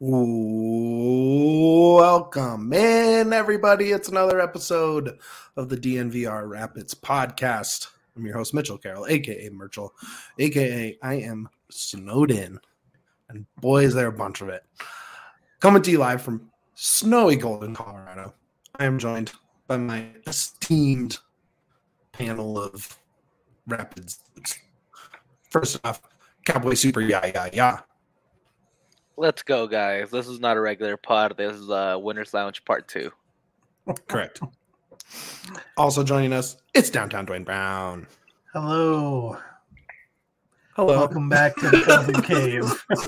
Welcome in, everybody. It's another episode of the DNVR Rapids podcast. I'm your host, Mitchell Carroll, a.k.a. Merchel, a.k.a. I am snowed in. And boy, is there a bunch of it. Coming to you live from snowy Golden, Colorado. I am joined by my esteemed panel of Rapids. First off, Cowboy Super Ya. Let's go, guys. This is not a regular pod. This is Winner's Lounge Part 2. Correct. Also joining us, it's Downtown Dwayne Brown. Hello. Hello. Welcome back to the Filthy Cave.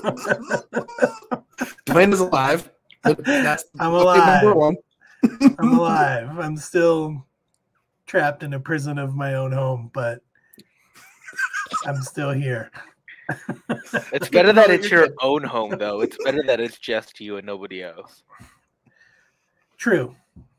Dwayne is alive. I'm alive. Number one. I'm alive. I'm still trapped in a prison of my own home, but I'm still here. It's better that it's your own home, though. It's better that it's just you and nobody else. True.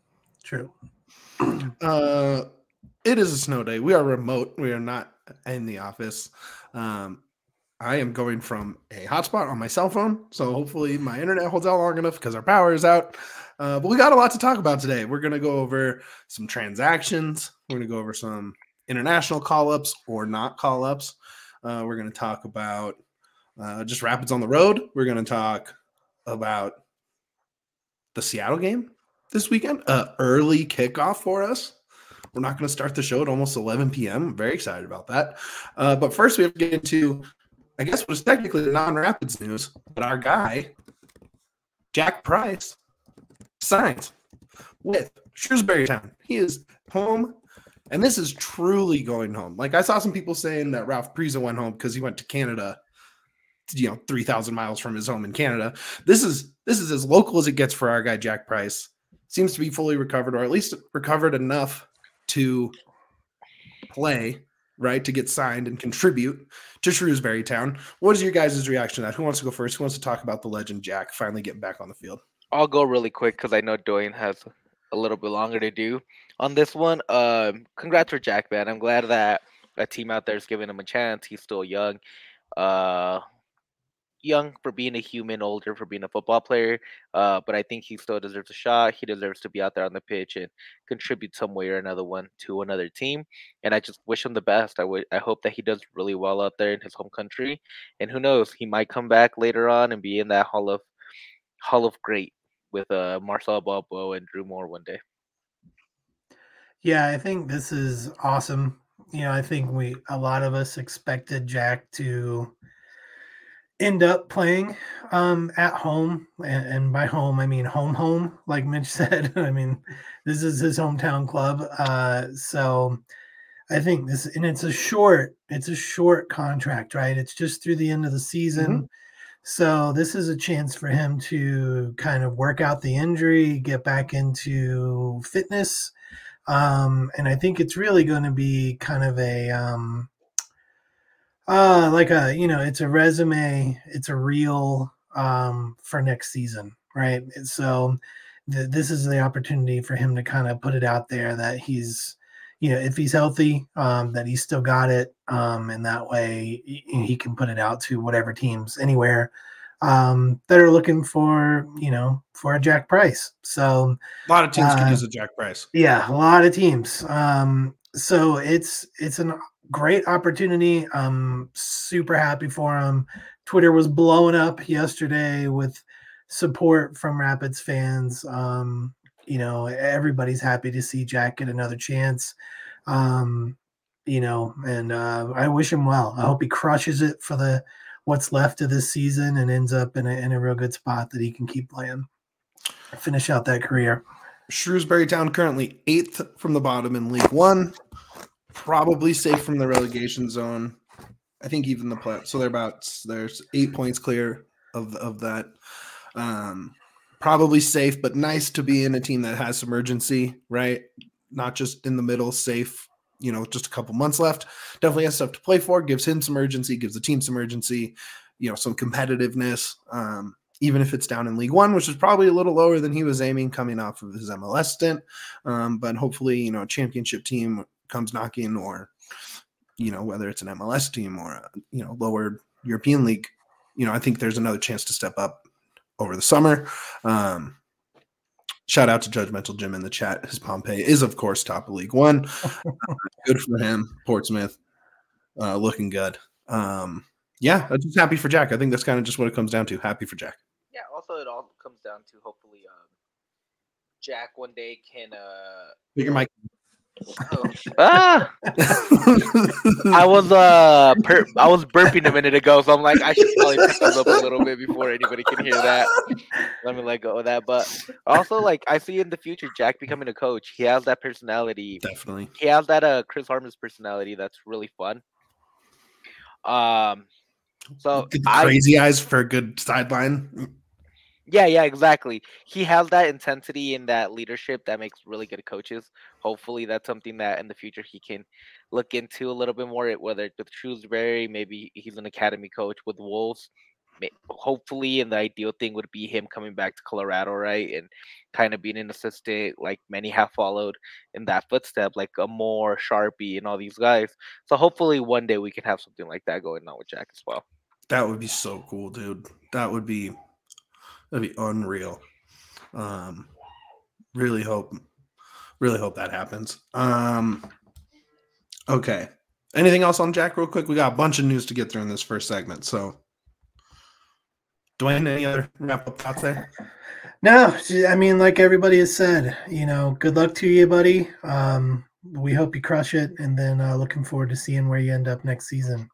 It is a snow day. We are remote. We are not in the office. I am going from a hotspot on my cell phone, so hopefully my internet holds out long enough because our power is out. But we got a lot to talk about today. We're going to go over some transactions. We're going to go over some international call-ups or not call-ups. We're going to talk about just Rapids on the road. We're going to talk about the Seattle game this weekend. Early kickoff for us. We're not going to start the show at almost 11 p.m. I'm very excited about that. But first we have to get into, I guess, what is technically the non-Rapids news. But our guy, Jack Price, signed with Shrewsbury Town. He is home. And this is truly going home. Like, I saw some people saying that Ralph Priza went home because he went to Canada, 3,000 miles from his home in Canada. This is as local as it gets for our guy, Jack Price. Seems to be fully recovered, or at least recovered enough to play, right, to get signed and contribute to Shrewsbury Town. What is your guys' reaction to that? Who wants to go first? Who wants to talk about the legend Jack finally getting back on the field? I'll go really quick because I know Dwayne has a little bit longer to do on this one. Congrats for Jack, man. I'm glad that a team out there is giving him a chance. He's still young. Young for being a human, older for being a football player. But I think he still deserves a shot. He deserves to be out there on the pitch and contribute some way or another one to another team. And I just wish him the best. I hope that he does really well out there in his home country. And who knows, he might come back later on and be in that Hall of Great with Marcel Balbo and Drew Moore one day. Yeah, I think this is awesome. I think a lot of us expected Jack to end up playing at home, and by home I mean home, like Mitch said. I mean, this is his hometown club. So I think it's a short contract, right? It's just through the end of the season. Mm-hmm. So this is a chance for him to kind of work out the injury, get back into fitness. And I think it's really going to be kind of it's a resume, it's a reel for next season, right? So this is the opportunity for him to kind of put it out there that he's, if he's healthy, that he's still got it. And that way he can put it out to whatever teams anywhere that are looking for a Jack Price. So a lot of teams could use a Jack Price. Yeah, a lot of teams. So it's a great opportunity. I'm super happy for him. Twitter was blowing up yesterday with support from Rapids fans. Everybody's happy to see Jack get another chance. And I wish him well. I hope he crushes it for what's left of this season and ends up in a real good spot that he can keep playing, finish out that career. Shrewsbury Town currently 8th from the bottom in League One, probably safe from the relegation zone. I think even the play. So there's 8 points clear of that. Probably safe, but nice to be in a team that has some urgency, right? Not just in the middle, safe. Just a couple months left. Definitely has stuff to play for. Gives him some urgency. Gives the team some urgency. Some competitiveness. Even if it's down in League One, which is probably a little lower than he was aiming coming off of his MLS stint. But hopefully, a championship team comes knocking, or, whether it's an MLS team or, lower European league, I think there's another chance to step up over the summer. Shout out to Judgmental Jim in the chat. His Pompey is, of course, top of League One. Good for him. Portsmouth looking good. I'm just happy for Jack. I think that's kind of just what it comes down to. Happy for Jack. Yeah, also it all comes down to hopefully Jack one day can Bigger mic. I was burping a minute ago, so I'm like, I should probably pick those up a little bit before anybody can hear that. Let me let go of that. But also, like, I see in the future Jack becoming a coach. He has that personality. Definitely. He has that Chris Harmon's personality that's really fun. So crazy eyes for a good sideline. Yeah, exactly. He has that intensity and that leadership that makes really good coaches. Hopefully, that's something that in the future he can look into a little bit more. Whether it's with Shrewsbury, maybe he's an academy coach with Wolves. Hopefully, and the ideal thing would be him coming back to Colorado, right, and kind of being an assistant, like many have followed in that footstep, like a Moore, Sharpie, and all these guys. So hopefully, one day we can have something like that going on with Jack as well. That would be so cool, dude. That'd be unreal. Really hope that happens. Okay. Anything else on Jack real quick? We got a bunch of news to get through in this first segment. So Dwayne, any other wrap up thoughts there? No, I mean, like everybody has said, good luck to you, buddy. We hope you crush it, and then looking forward to seeing where you end up next season.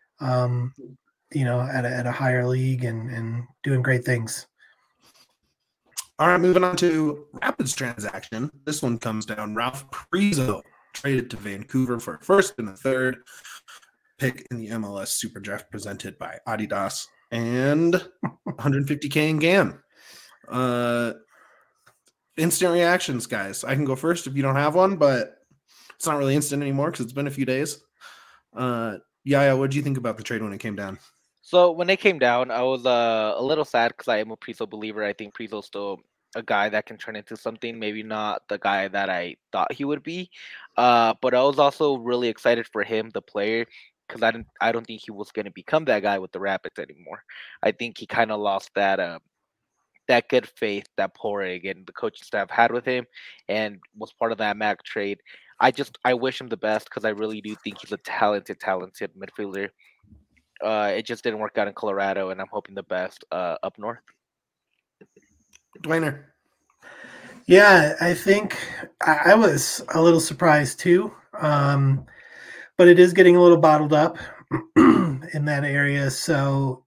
At a higher league and doing great things. All right, moving on to Rapids transaction. This one comes down. Ralph Priso traded to Vancouver for a first and a third pick in the MLS Super Draft presented by Adidas and $150K in GAM. Instant reactions, guys. I can go first if you don't have one, but it's not really instant anymore because it's been a few days. Yaya, what did you think about the trade when it came down? So when it came down, I was a little sad because I am a Priso believer. I think Priso's still a guy that can turn into something, maybe not the guy that I thought he would be. But I was also really excited for him, the player, because I don't think he was going to become that guy with the Rapids anymore. I think he kind of lost that good faith that Porig and the coaching staff had with him and was part of that Mac trade. I wish him the best because I really do think he's a talented midfielder. It just didn't work out in Colorado, and I'm hoping the best up north. Dwayner. Yeah, I think I was a little surprised too, but it is getting a little bottled up in that area. So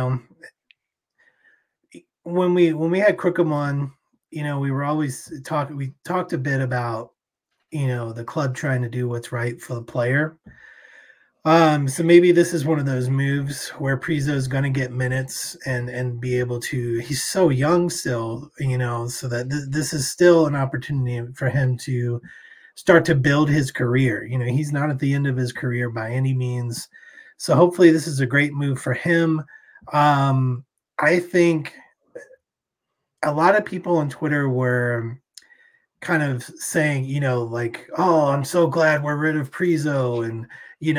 when we had Crookham on, we were always talking. We talked a bit about the club trying to do what's right for the player. So maybe this is one of those moves where Priso is going to get minutes and be able to. He's so young still, so that this is still an opportunity for him to start to build his career. He's not at the end of his career by any means. So hopefully this is a great move for him. I think a lot of people on Twitter were kind of saying, oh, I'm so glad we're rid of Priso and,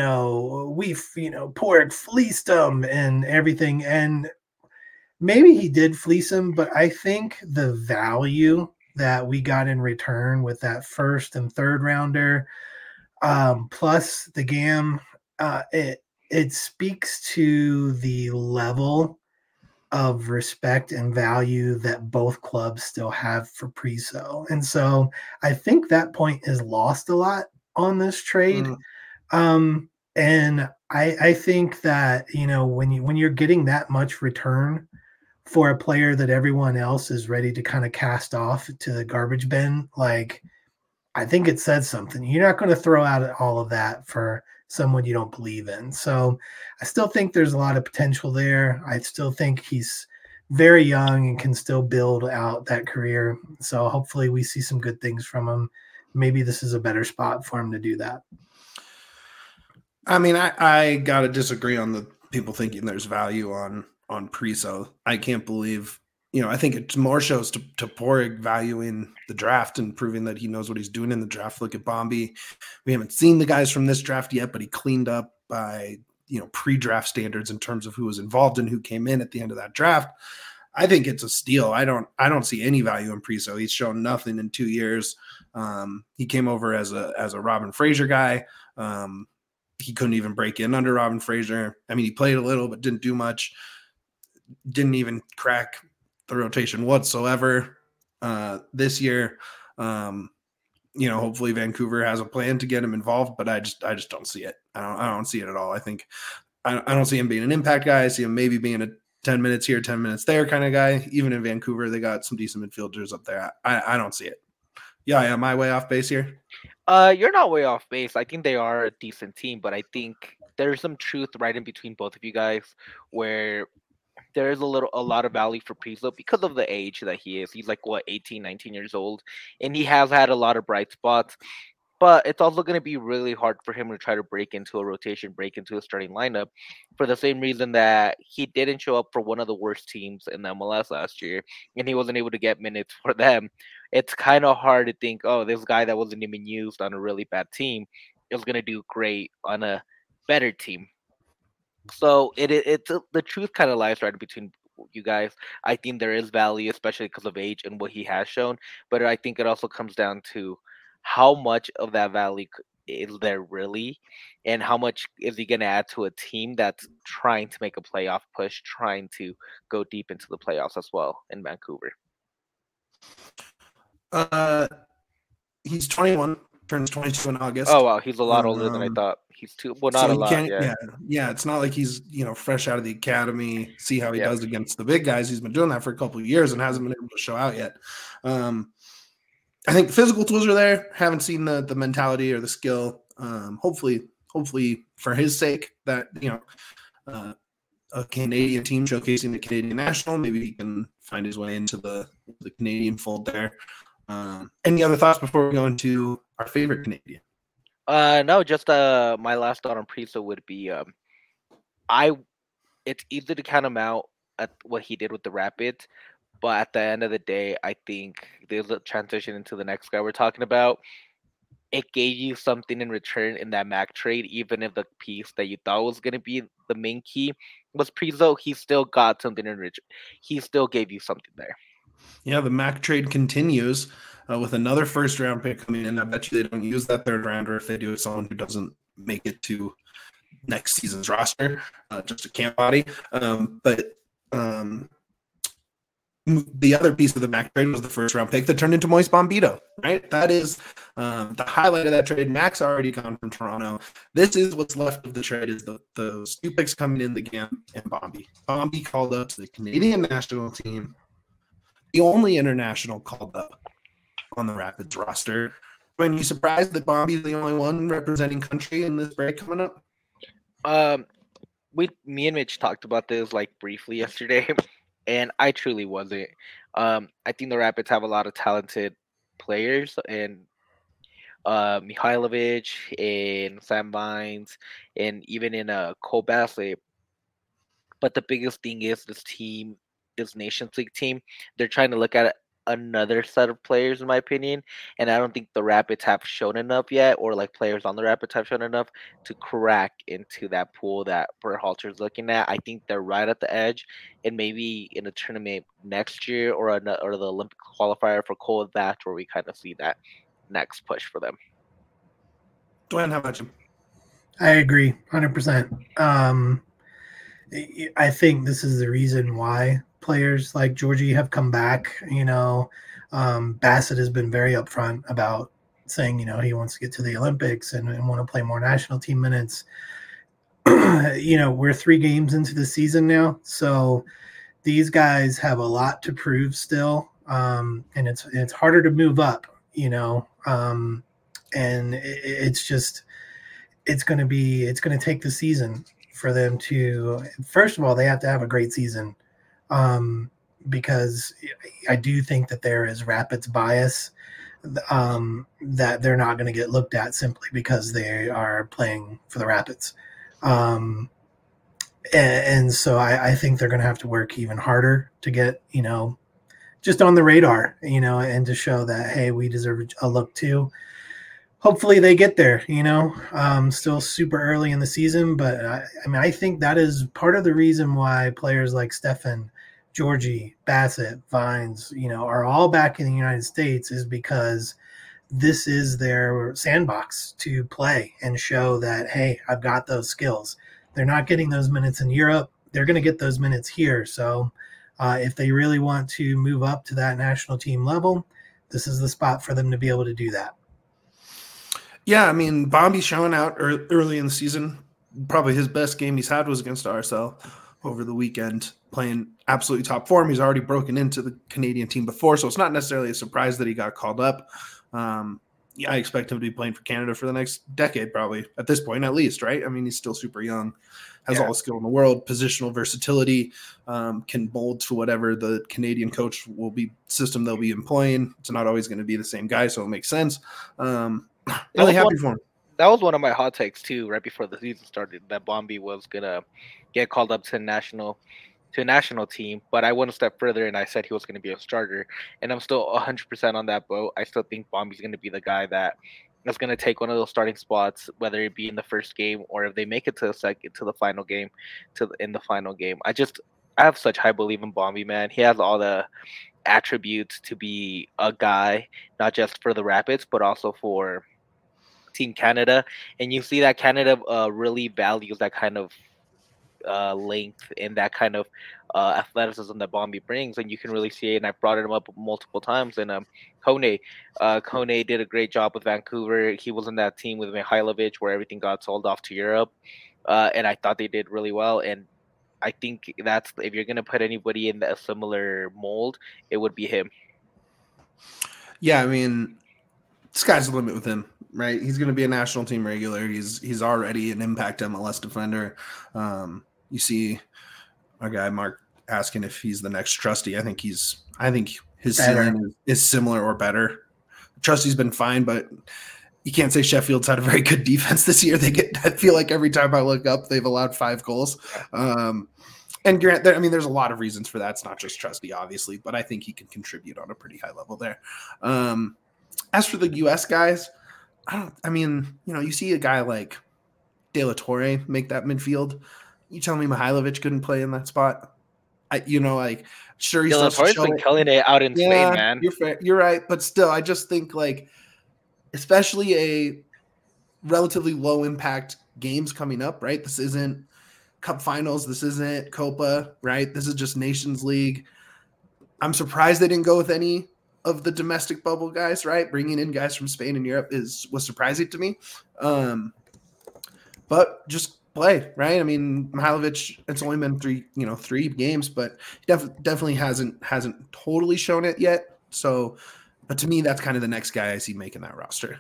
Porig fleeced him and everything. And maybe he did fleece him, but I think the value that we got in return with that first and third rounder, plus the GAM, it speaks to the level of respect and value that both clubs still have for Priso. And so I think that point is lost a lot on this trade. And I think that, when you're getting that much return for a player that everyone else is ready to kind of cast off to the garbage bin, like, I think it says something. You're not going to throw out all of that for someone you don't believe in. So I still think there's a lot of potential there. I still think he's very young and can still build out that career. So hopefully we see some good things from him. Maybe this is a better spot for him to do that. I mean, I got to disagree on the people thinking there's value on Priso. I can't believe, I think it more shows to Porig valuing the draft and proving that he knows what he's doing in the draft. Look at Bombi. We haven't seen the guys from this draft yet, but he cleaned up by, pre-draft standards in terms of who was involved and who came in at the end of that draft. I think it's a steal. I don't see any value in Priso. He's shown nothing in 2 years. He came over as a Robin Fraser guy. He couldn't even break in under Robin Fraser. I mean, he played a little, but didn't do much. Didn't even crack the rotation whatsoever this year. Hopefully Vancouver has a plan to get him involved, but I just don't see it. I don't see it at all. I think I don't see him being an impact guy. I see him maybe being a 10 minutes here, 10 minutes there kind of guy. Even in Vancouver, they got some decent midfielders up there. I don't see it. Yeah, am I way off base here? You're not way off base. I think they are a decent team, but I think there's some truth right in between both of you guys where there is a lot of value for Priso because of the age that he is. He's like 18, 19 years old, and he has had a lot of bright spots. But it's also going to be really hard for him to try to break into a rotation, break into a starting lineup, for the same reason that he didn't show up for one of the worst teams in the MLS last year, and he wasn't able to get minutes for them. It's kind of hard to think, oh, this guy that wasn't even used on a really bad team is going to do great on a better team. So it's the truth kind of lies right between you guys. I think there is value, especially because of age and what he has shown. But I think it also comes down to how much of that value is there really, and how much is he going to add to a team that's trying to make a playoff push, trying to go deep into the playoffs as well in Vancouver. He's 21, turns 22 in August. Oh wow, he's a lot older than I thought. He's too not so a lot. Yeah. It's not like he's fresh out of the academy. See how he does against the big guys. He's been doing that for a couple of years and hasn't been able to show out yet. I think the physical tools are there. Haven't seen the mentality or the skill. Hopefully for his sake that a Canadian team showcasing the Canadian national, maybe he can find his way into the Canadian fold there. Any other thoughts before we go into our favorite Canadian? No, just my last thought on Priso would be it's easy to count him out at what he did with the Rapids, but at the end of the day, I think there's a transition into the next guy we're talking about. It gave you something in return in that Mac trade, even if the piece that you thought was going to be the main key was Priso. He still got something in return. He still gave you something there. Yeah, the Mac trade continues with another first-round pick coming in. I bet you they don't use that third rounder if they do it someone who doesn't make it to next season's roster, just a camp body. But the other piece of the Mac trade was the first-round pick that turned into Moise Bombito, right? That is the highlight of that trade. Mac's already gone from Toronto. This is what's left of the trade is those two picks coming in, the Gam and Bombi. Bombi called up to the Canadian national team, the only international called up on the Rapids roster. Are you surprised that Bombi is the only one representing country in this break coming up? Me and Mitch talked about this briefly yesterday, and I truly wasn't. I think the Rapids have a lot of talented players, and Mihailovic and Sam Vines, and even in Cole Bassett. But the biggest thing is this team, this Nations League team, they're trying to look at another set of players, in my opinion, and I don't think the Rapids have shown enough yet, or players on the Rapids have shown enough to crack into that pool that Berhalter's looking at. I think they're right at the edge, and maybe in a tournament next year or the Olympic qualifier for Cole, that's where we kind of see that next push for them. Dwayne, how about you? I agree 100%. I think this is the reason why players like Georgie have come back. Bassett has been very upfront about saying, he wants to get to the Olympics and want to play more national team minutes. We're 3 games into the season now, so these guys have a lot to prove still, and it's harder to move up, and it's going to take the season for them to, first of all, they have to have a great season, because I do think that there is Rapids bias, that they're not going to get looked at simply because they are playing for the Rapids. And so I think they're going to have to work even harder to get, just on the radar, and to show that, hey, we deserve a look too. Hopefully they get there, still super early in the season. But I think that is part of the reason why players like Stefan Georgie, Bassett, Vines, are all back in the United States is because this is their sandbox to play and show that, hey, I've got those skills. They're not getting those minutes in Europe. They're going to get those minutes here. So if they really want to move up to that national team level, this is the spot for them to be able to do that. Yeah, I mean, Bombi's showing out early in the season. Probably his best game he's had was against RSL over the weekend, playing absolutely top form. He's already broken into the Canadian team before, so it's not necessarily a surprise that he got called up. Yeah, I expect him to be playing for Canada for the next decade, probably at this point, at least, right? I mean, he's still super young, has all the skill in the world, positional versatility, can mold to whatever the Canadian coach system they'll be employing. It's not always going to be the same guy, so it makes sense. Really happy for him. That was one of my hot takes too, right before the season started, that Bombi was gonna get called up to a national team, but I went a step further and I said he was going to be a starter, and I'm still 100% on that boat. I still think Bombi's going to be the guy that is going to take one of those starting spots, whether it be in the first game or if they make it to the final game. I have such high belief in Bombi, man. He has all the attributes to be a guy, not just for the Rapids, but also for Team Canada. And you see that Canada really values that kind of length and that kind of athleticism that Bombi brings, and you can really see it. And I've brought him up multiple times. And Kone did a great job with Vancouver. He was in that team with Mihailovic where everything got sold off to Europe, and I thought they did really well. And I think that's, if you're going to put anybody in a similar mold, it would be him. Yeah, I mean, sky's the limit with him, right? He's going to be a national team regular. He's already an impact MLS defender. You see our guy Mark asking if he's the next Trusty. I think his ceiling is similar or better. Trusty's been fine, but you can't say Sheffield's had a very good defense this year. I feel like every time I look up, they've allowed 5 goals. And Grant, I mean, there's a lot of reasons for that. It's not just Trusty, obviously, but I think he can contribute on a pretty high level there. As for the U.S. guys, you see a guy like De La Torre make that midfield. You tell me Mihailovic couldn't play in that spot? Sure, he's De La Torre's been killing it out in Spain, man. You're right, but still, I just think especially a relatively low impact games coming up, right? This isn't Cup Finals, this isn't Copa, right? This is just Nations League. I'm surprised they didn't go with any of the domestic bubble guys, right? Bringing in guys from Spain and Europe was surprising to me. But just play, right? I mean, Mihailovic, it's only been 3 games, but he definitely hasn't totally shown it yet. So, but to me, that's kind of the next guy I see making that roster.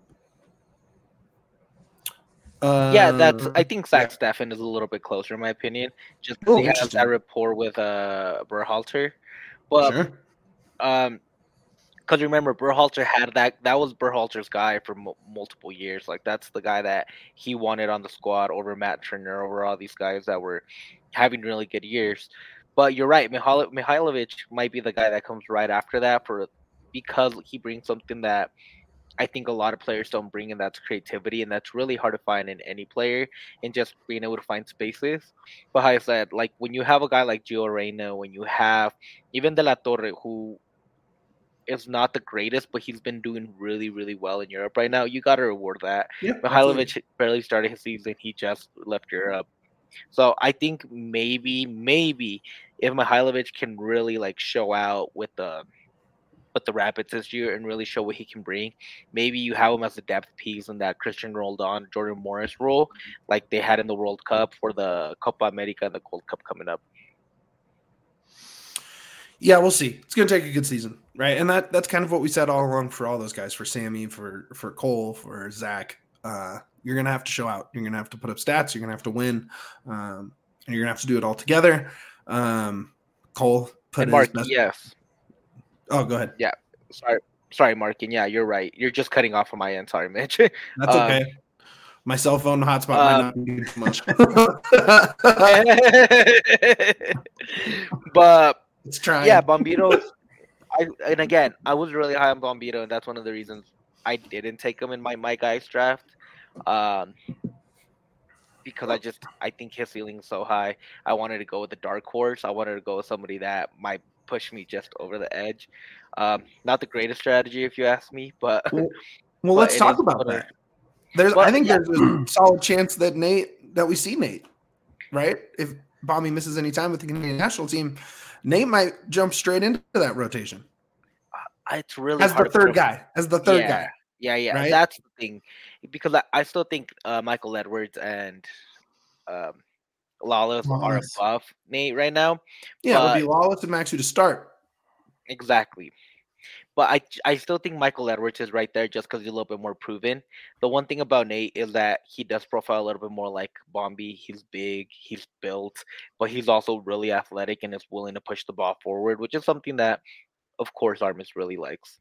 I think Zach Steffen is a little bit closer in my opinion, just because he has that rapport with Berhalter. But sure. Because remember, Berhalter had that was Berhalter's guy for multiple years. Like, that's the guy that he wanted on the squad over Matt Turner, over all these guys that were having really good years. But you're right, Mihailovic might be the guy that comes right after that, because he brings something that I think a lot of players don't bring, and that's creativity, and that's really hard to find in any player, and just being able to find spaces. But like I said, like, when you have a guy like Gio Reyna, when you have even De La Torre, who is not the greatest, but he's been doing really, really well in Europe right now, you got to reward that. Yep, Mihailovic barely started his season. He just left Europe. So I think maybe if Mihailovic can really show out with the Rapids this year and really show what he can bring, maybe you have him as a depth piece in that Christian Roldan, Jordan Morris role, like they had in the World Cup for the Copa America and the Gold Cup coming up. Yeah, we'll see. It's going to take a good season, right? And that's kind of what we said all along for all those guys, for Sammy, for Cole, for Zach. You're going to have to show out. You're going to have to put up stats. You're going to have to win. And you're going to have to do it all together. Cole put Mark, his best. Yes. Oh, go ahead. Yeah. Sorry, Mark. And yeah, you're right. You're just cutting off on my end. Sorry, Mitch. That's okay. My cell phone hotspot might not be too much. But it's trying. Yeah, Bombito. I was really high on Bombito, and that's one of the reasons I didn't take him in my guys draft. because I think his ceiling is so high. I wanted to go with the dark horse. I wanted to go with somebody that might push me just over the edge. Not the greatest strategy if you ask me, but Well, but let's it is talk about what it is. that. I But think yeah, there's a solid chance that we see Nate, right? If Bomby misses any time with the Canadian national team, Nate might jump straight into that rotation it's really as the hard to put third a guy, yeah. Yeah. right? That's the thing, because I still think Michael Edwards and um, Lawless are Wallace. above Nate right now. Yeah, it would be But Lawless and Maxu to start. exactly. But I still think Michael Edwards is right there just because he's a little bit more proven. The one thing about Nate is that he does profile a little bit more like Bombi. He's big, he's built, but he's also really athletic and is willing to push the ball forward, which is something that, of course, Armis really likes.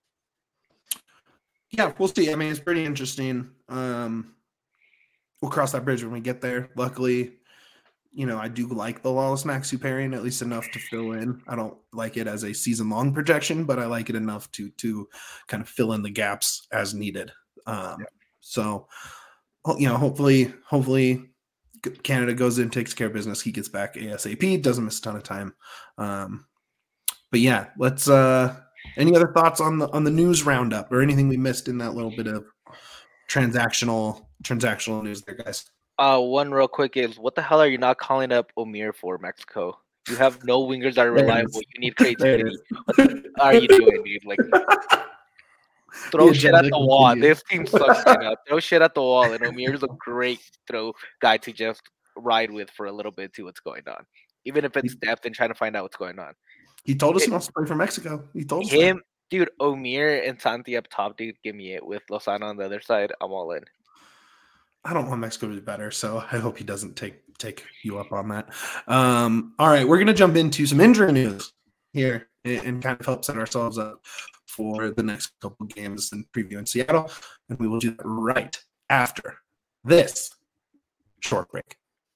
Yeah, we'll see. I mean, it's pretty interesting. We'll cross that bridge when we get there. Luckily, I do like the Lawless Maxu pairing at least enough to fill in. I don't like it as a season-long projection, but I like it enough to kind of fill in the gaps as needed. So, hopefully Canada goes in, takes care of business. He gets back ASAP, doesn't miss a ton of time. But yeah, let's. Any other thoughts on the news roundup or anything we missed in that little bit of transactional news there, guys? One real quick is, what the hell are you not calling up Omir for Mexico? You have no wingers that are reliable. You need creativity. What are you doing, dude? Like, throw shit at the wall. This team sucks right now. Throw shit at the wall, and Omir's a great throw guy to just ride with for a little bit, see what's going on. Even if it's depth and trying to find out what's going on. He told us he wants to play for Mexico. He told us him, dude. Omir and Santi up top, dude. Give me it with Lozano on the other side. I'm all in. I don't want Mexico to be better, so I hope he doesn't take you up on that. All right, we're gonna jump into some injury news here and kind of help set ourselves up for the next couple of games and preview in Seattle, and we will do that right after this short break.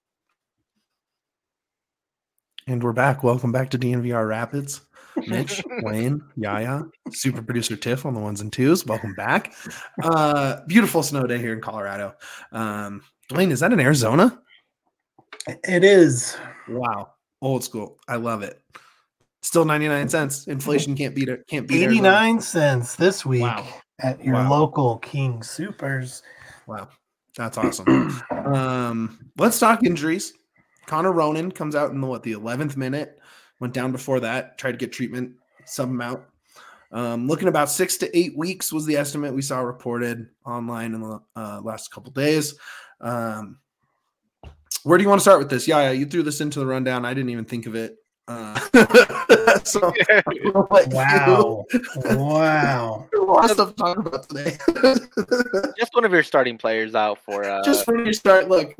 And we're back. Welcome back to DNVR Rapids. Mitch, Wayne, Yaya, super producer Tiff on the ones and twos. Welcome back. Beautiful snow day here in Colorado. Wayne, is that in Arizona? It is. Wow. Old school. I love it. Still 99 cents. Inflation can't beat it. Can't beat 89 cents this week at your local King Supers. Wow. That's awesome. Let's talk injuries. Connor Ronan comes out in the 11th minute. Went down before that. Tried to get treatment. Sub him out. Looking about 6 to 8 weeks was the estimate we saw reported online in the last couple days. Where do you want to start with this? Yeah, you threw this into the rundown. I didn't even think of it. So, wow. Lots of stuff to talk about today. Just one of your starting players out for. Just for your start. Look.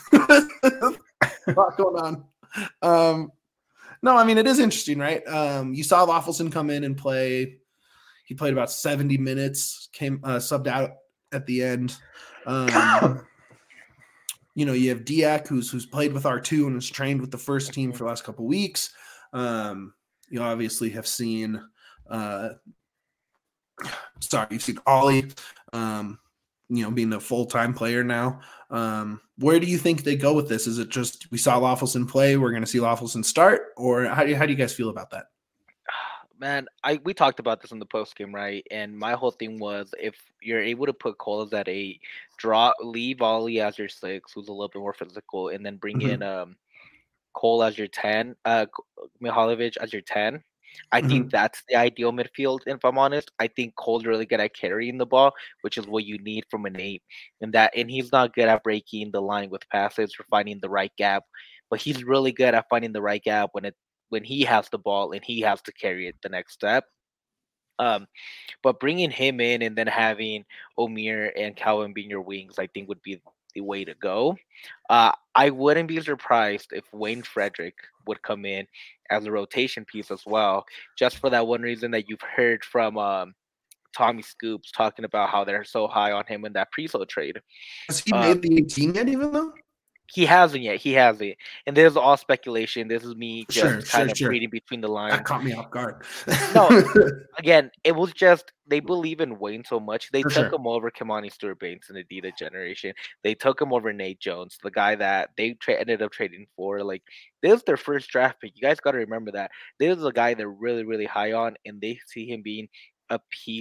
A lot going on. No, I mean, it is interesting, right? You saw Loffelson come in and play. He played about 70 minutes, came subbed out at the end. You have Diak, who's played with R2 and has trained with the first team for the last couple of weeks. You obviously have seen you've seen Ollie, being a full-time player now. Where do you think they go with this? Is it just we saw Loffelson play, we're going to see Loffelson start, or how do you guys feel about that? Man, we talked about this in the post game, right? And my whole thing was, if you're able to put Cole as at 8, leave Ollie as your 6, who's a little bit more physical, and then bring in Cole as your 10, Mihalovic as your 10. I think that's the ideal midfield. And if I'm honest, I think Cole's really good at carrying the ball, which is what you need from an 8. And he's not good at breaking the line with passes or finding the right gap, but he's really good at finding the right gap when he has the ball and he has to carry it the next step. But bringing him in and then having Omir and Calvin being your wings, I think would be the way to go. I wouldn't be surprised if Wayne Frederick would come in as a rotation piece as well, just for that one reason that you've heard from Tommy Scoops talking about how they're so high on him in that Priso trade. Has he made the team yet, even though? He hasn't yet. He hasn't. And this is all speculation. This is me just kind of Sure. reading between the lines. That caught me off guard. No, again, it was just they believe in Wayne so much. They For took sure. him over Kamani Stewart-Bates in the Adidas generation. They took him over Nate Jones, the guy that they ended up trading for. Like, this is their first draft pick. You guys got to remember that. This is a guy they're really, really high on, and they see him being a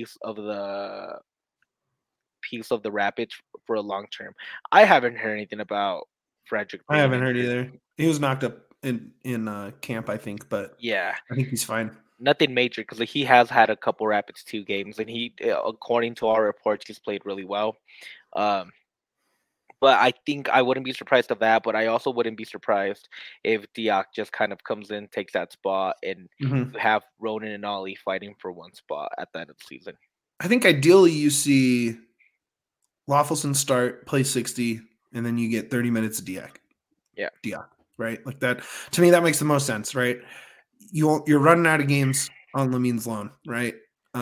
piece of the Rapids for a long term. I haven't heard anything about Frederick. I haven't heard either. He was knocked up in camp, I think, but yeah, I think he's fine. Nothing major because he has had a couple Rapids 2 games, and he, according to our reports, he's played really well. But I think I wouldn't be surprised of that. But I also wouldn't be surprised if Diak just kind of comes in, takes that spot, and you have Ronan and Ollie fighting for one spot at the end of the season. I think ideally you see Lawfulson start, play 60, and then you get 30 minutes of Diak. Yeah. Diak, right? Like that. To me, that makes the most sense, right? You're running out of games on Lamin's loan, right?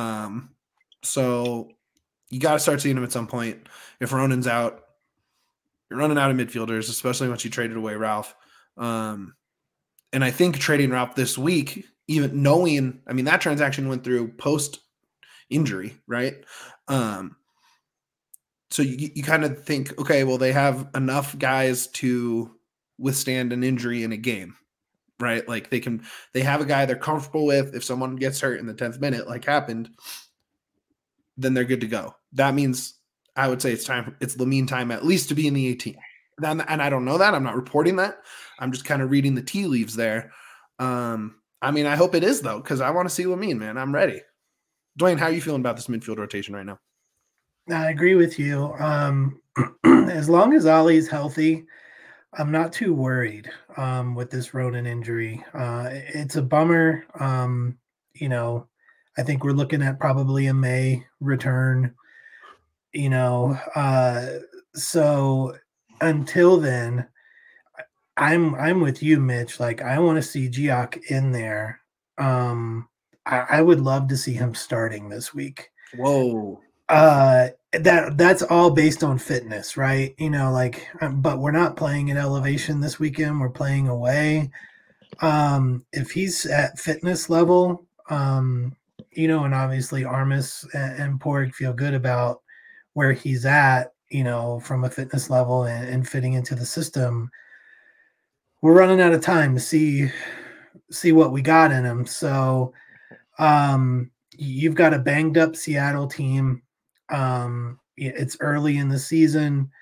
So you got to start seeing him at some point. If Ronan's out, you're running out of midfielders, especially once you traded away Ralph. And I think trading Ralph this week, even knowing, I mean, that transaction went through post-injury, right? So you kind of think, okay, well, they have enough guys to withstand an injury in a game, right? Like they have a guy they're comfortable with. If someone gets hurt in the 10th minute, like happened, then they're good to go. That means I would say it's Lamine time at least to be in the 18. And I don't know that. I'm not reporting that. I'm just kind of reading the tea leaves there. I mean, I hope it is, though, because I want to see Lamine, man. I'm ready. Dwayne, how are you feeling about this midfield rotation right now? I agree with you. As long as Ollie's healthy, I'm not too worried with this Ronan injury. It's a bummer. I think we're looking at probably a May return. So until then, I'm with you, Mitch. Like, I want to see Diak in there. I would love to see him starting this week. Whoa. That's all based on fitness, right? But we're not playing at Elevation this weekend. We're playing away. If he's at fitness level, and obviously Armas and Porg feel good about where he's at, from a fitness level and fitting into the system. We're running out of time to see what we got in him. So you've got a banged up Seattle team. It's early in the season.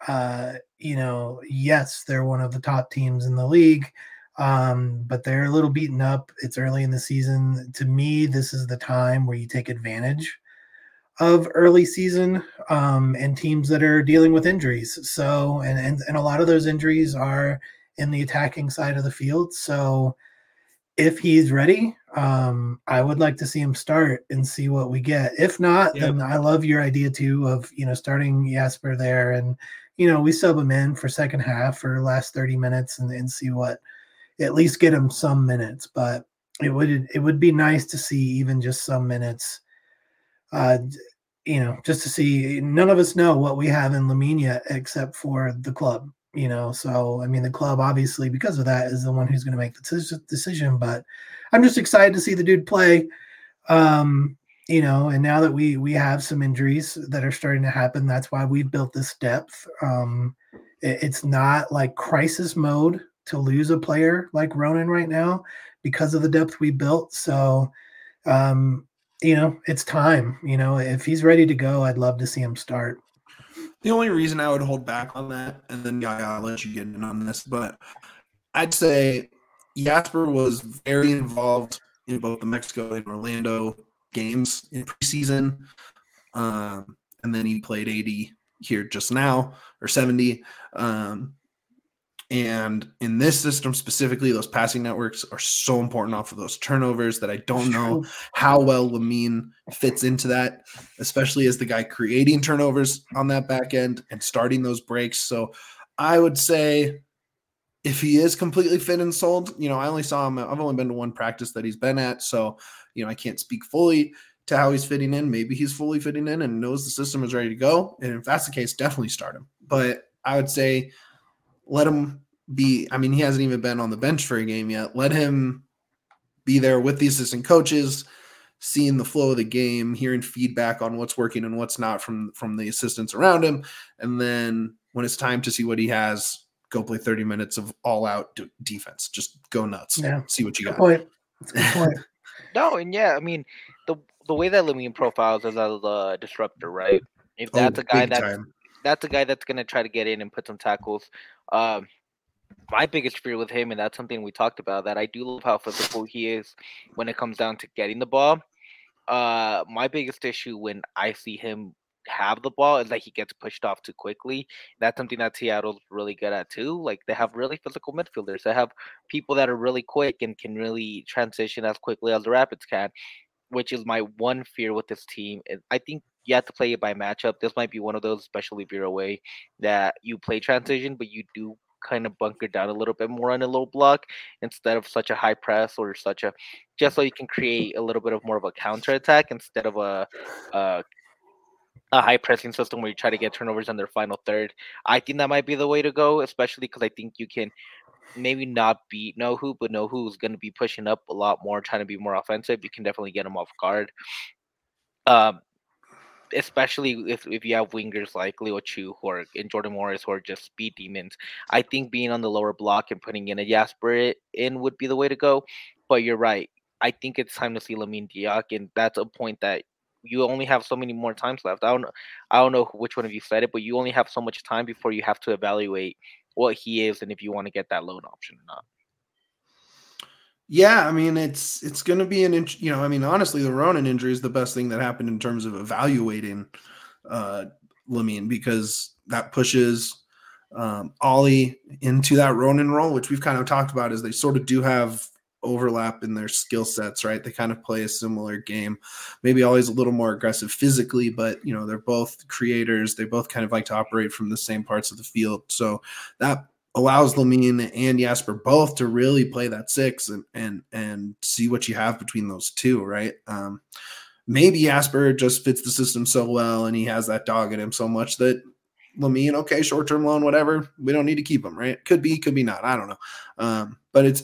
Yes, they're one of the top teams in the league, but they're a little beaten up. It's early in the season. To me, this is the time where you take advantage of early season and teams that are dealing with injuries. So, and a lot of those injuries are in the attacking side of the field. So if he's ready, I would like to see him start and see what we get. If not, then I love your idea too of, starting Jasper there and, we sub him in for second half for last 30 minutes and see what, at least get him some minutes. But it would be nice to see even just some minutes, just to see. None of us know what we have in Lamine yet except for the club. So, I mean, the club, obviously, because of that, is the one who's going to make the decision. But I'm just excited to see the dude play. And now that we have some injuries that are starting to happen, that's why we've built this depth. It's not like crisis mode to lose a player like Ronan right now because of the depth we built. So, it's time. If he's ready to go, I'd love to see him start. The only reason I would hold back on that, and then I'll let you get in on this, but I'd say Jasper was very involved in both the Mexico and Orlando games in preseason, and then he played 80 here just now, or 70. And in this system specifically, those passing networks are so important off of those turnovers that I don't know how well Lamine fits into that, especially as the guy creating turnovers on that back end and starting those breaks. So I would say if he is completely fit and sold, I only saw him. I've only been to one practice that he's been at. So, I can't speak fully to how he's fitting in. Maybe he's fully fitting in and knows the system is ready to go. And if that's the case, definitely start him. But I would say let him be. I mean, he hasn't even been on the bench for a game yet. Let him be there with the assistant coaches, seeing the flow of the game, hearing feedback on what's working and what's not from the assistants around him. And then when it's time to see what he has, go play 30 minutes of all-out defense. Just go nuts. Yeah. See what you got. Point. That's a good point. No, and yeah, I mean the way that Lamine profiles as a disruptor, right? If that's a guy that's a guy that's gonna try to get in and put some tackles. My biggest fear with him, and that's something we talked about, that I do love how physical he is when it comes down to getting the ball. My biggest issue when I see him have the ball is that he gets pushed off too quickly. That's something that Seattle's really good at too. Like, they have really physical midfielders. They have people that are really quick and can really transition as quickly as the Rapids can, which is my one fear with this team. I think you have to play it by matchup. This might be one of those, especially if you're away, that you play transition, but you do kind of bunker down a little bit more on a low block instead of such a high press, or such a, just so you can create a little bit of more of a counter attack instead of a high pressing system where you try to get turnovers in their final third. I think that might be the way to go, especially because I think you can maybe not beat Nohu, but Nohu's going to be pushing up a lot more, trying to be more offensive. You can definitely get him off guard. Especially if you have wingers like Leo Chu and Jordan Morris, who are just speed demons. I think being on the lower block and putting in a Jasper in would be the way to go. But you're right. I think it's time to see Lamine Diak, and that's a point that you only have so many more times left. I don't know which one of you said it, but you only have so much time before you have to evaluate what he is and if you want to get that loan option or not. Yeah, I mean, it's going to be I mean, honestly, the Ronan injury is the best thing that happened in terms of evaluating Lamine, because that pushes Ollie into that Ronan role, which we've kind of talked about, is they sort of do have overlap in their skill sets, right? They kind of play a similar game, maybe Ollie's a little more aggressive physically, but they're both creators. They both kind of like to operate from the same parts of the field. So that allows Lamine and Jasper both to really play that six and see what you have between those two, right? Maybe Jasper just fits the system so well and he has that dog in him so much that Lamine, okay, short-term loan, whatever, we don't need to keep him, right? Could be not. I don't know. But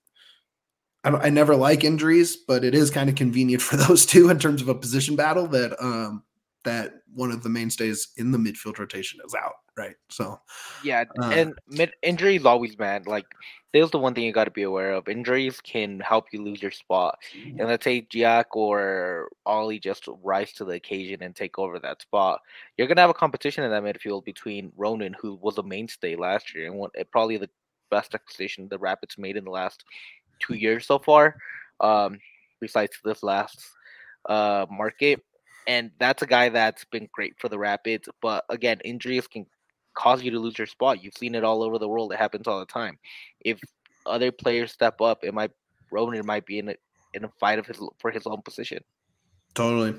I never like injuries, but it is kind of convenient for those two in terms of a position battle that one of the mainstays in the midfield rotation is out, right? So yeah, and injuries always, man. Like, there's the one thing you got to be aware of: injuries can help you lose your spot. And let's say Jack or Ollie just rise to the occasion and take over that spot. You're gonna have a competition in that midfield between Ronan, who was a mainstay last year and probably the best acquisition the Rapids made in the last 2 years so far, besides this last market. And that's a guy that's been great for the Rapids. But again, injuries can cause you to lose your spot. You've seen it all over the world. It happens all the time. If other players step up, Ronan might be in a fight for his own position. Totally.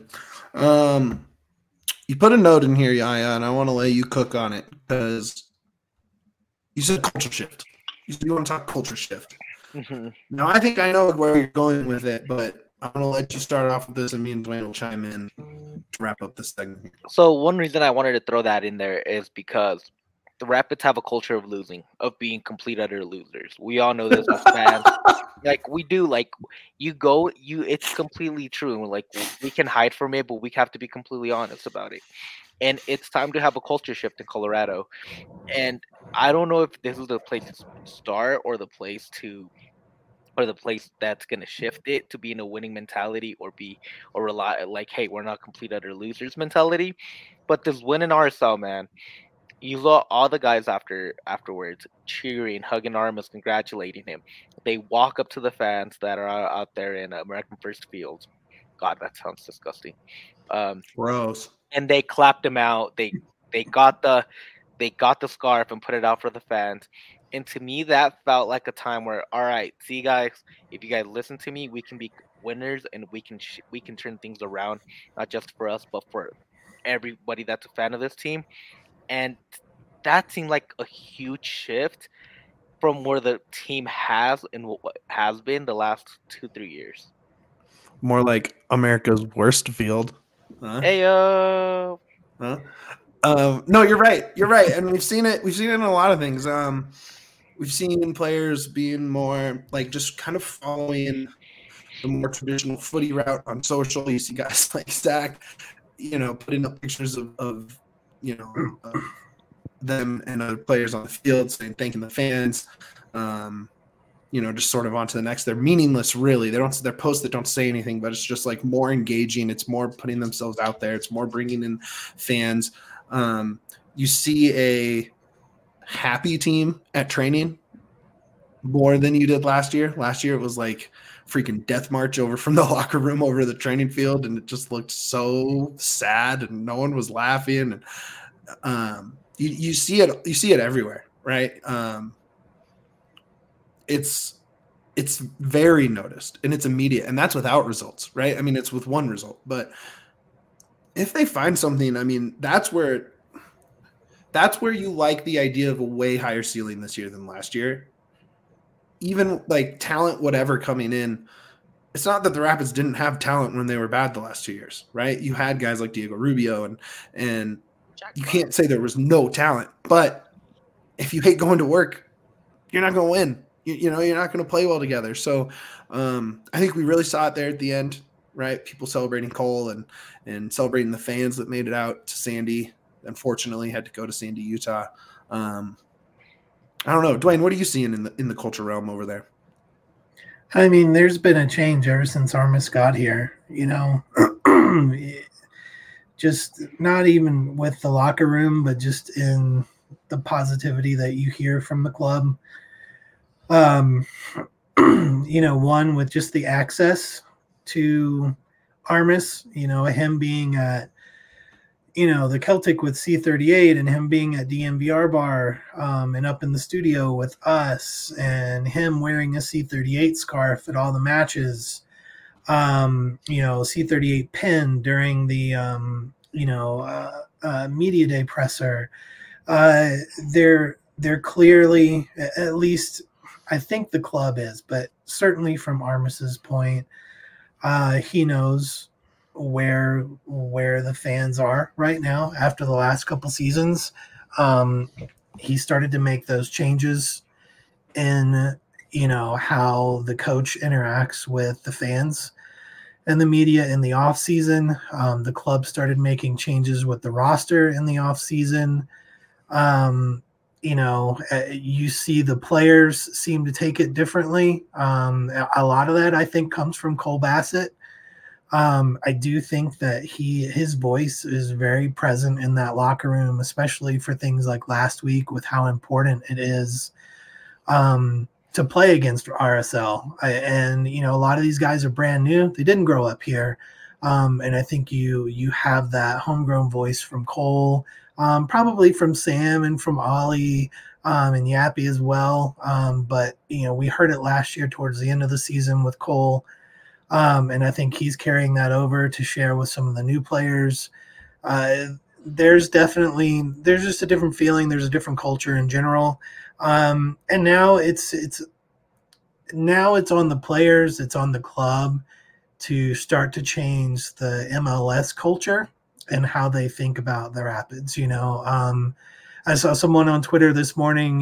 You put a note in here, Yaya, and I want to let you cook on it, because you said culture shift. You said you want to talk culture shift. Mm-hmm. Now, I think I know where you're going with it, but I'm going to let you start off with this, and me and Dwayne will chime in to wrap up this segment. So one reason I wanted to throw that in there is because the Rapids have a culture of losing, of being complete utter losers. We all know this as fans. Like, we do. Like, it's completely true. Like, we can hide from it, but we have to be completely honest about it. And it's time to have a culture shift in Colorado. And I don't know if this is the place to start or the place that's going to shift it to be in a winning mentality or rely, like, hey, we're not complete utter losers mentality. But this win in RSL, man, you saw all the guys afterwards cheering, hugging Armas, congratulating him. They walk up to the fans that are out there in American First Field. God, that sounds disgusting. Gross. And they clapped him out. They got the scarf and put it out for the fans. And to me, that felt like a time where, all right, see, guys, if you guys listen to me, we can be winners, and we can turn things around, not just for us, but for everybody that's a fan of this team. And that seemed like a huge shift from where the team has and what has been the last 2-3 years. More like America's worst field. Huh? Hey, Huh? No, you're right. You're right, and we've seen it. We've seen it in a lot of things. We've seen players being more like just kind of following the more traditional footy route on social. You see guys like Zach, putting up pictures of them and other players on the field saying thanking the fans. Just sort of on to the next. They're meaningless, really. They're posts that don't say anything, but it's just like more engaging. It's more putting themselves out there. It's more bringing in fans. You see a happy team at training more than you did last year. Last year it was like freaking death march over from the locker room over to the training field, and it just looked so sad, and no one was laughing. And you see it everywhere, right? It's very noticed, and it's immediate, and that's without results, right? I mean, it's with one result, but if they find something, I mean, that's where you like the idea of a way higher ceiling this year than last year. Even like talent, whatever coming in, it's not that the Rapids didn't have talent when they were bad the last 2 years, right? You had guys like Diego Rubio, and you can't say there was no talent, but if you hate going to work, you're not going to win. You're not going to play well together. So I think we really saw it there at the end, right? People celebrating Cole and celebrating the fans that made it out to Sandy. Unfortunately, had to go to Sandy, Utah. I don't know, Dwayne. What are you seeing in the culture realm over there? I mean, there's been a change ever since Armas got here. Just not even with the locker room, but just in the positivity that you hear from the club. One with just the access to Armas, him being at, the Celtic with C38 and him being at DMVR bar and up in the studio with us and him wearing a C38 scarf at all the matches, C38 pin during the, media day presser. They're clearly, at least I think the club is, but certainly from Armas's point, he knows where the fans are right now after the last couple seasons. He started to make those changes in how the coach interacts with the fans and the media in the off season. The club started making changes with the roster in the off season. You see the players seem to take it differently. A lot of that I think comes from Cole Bassett. I do think that his voice is very present in that locker room, especially for things like last week with how important it is to play against RSL. A lot of these guys are brand new. They didn't grow up here. And I think you have that homegrown voice from Cole, probably from Sam and from Ollie and Yappy as well. But we heard it last year towards the end of the season with Cole. And I think he's carrying that over to share with some of the new players. There's just a different feeling. There's a different culture in general. And now it's on the players, it's on the club to start to change the MLS culture and how they think about the Rapids. I saw someone on Twitter this morning,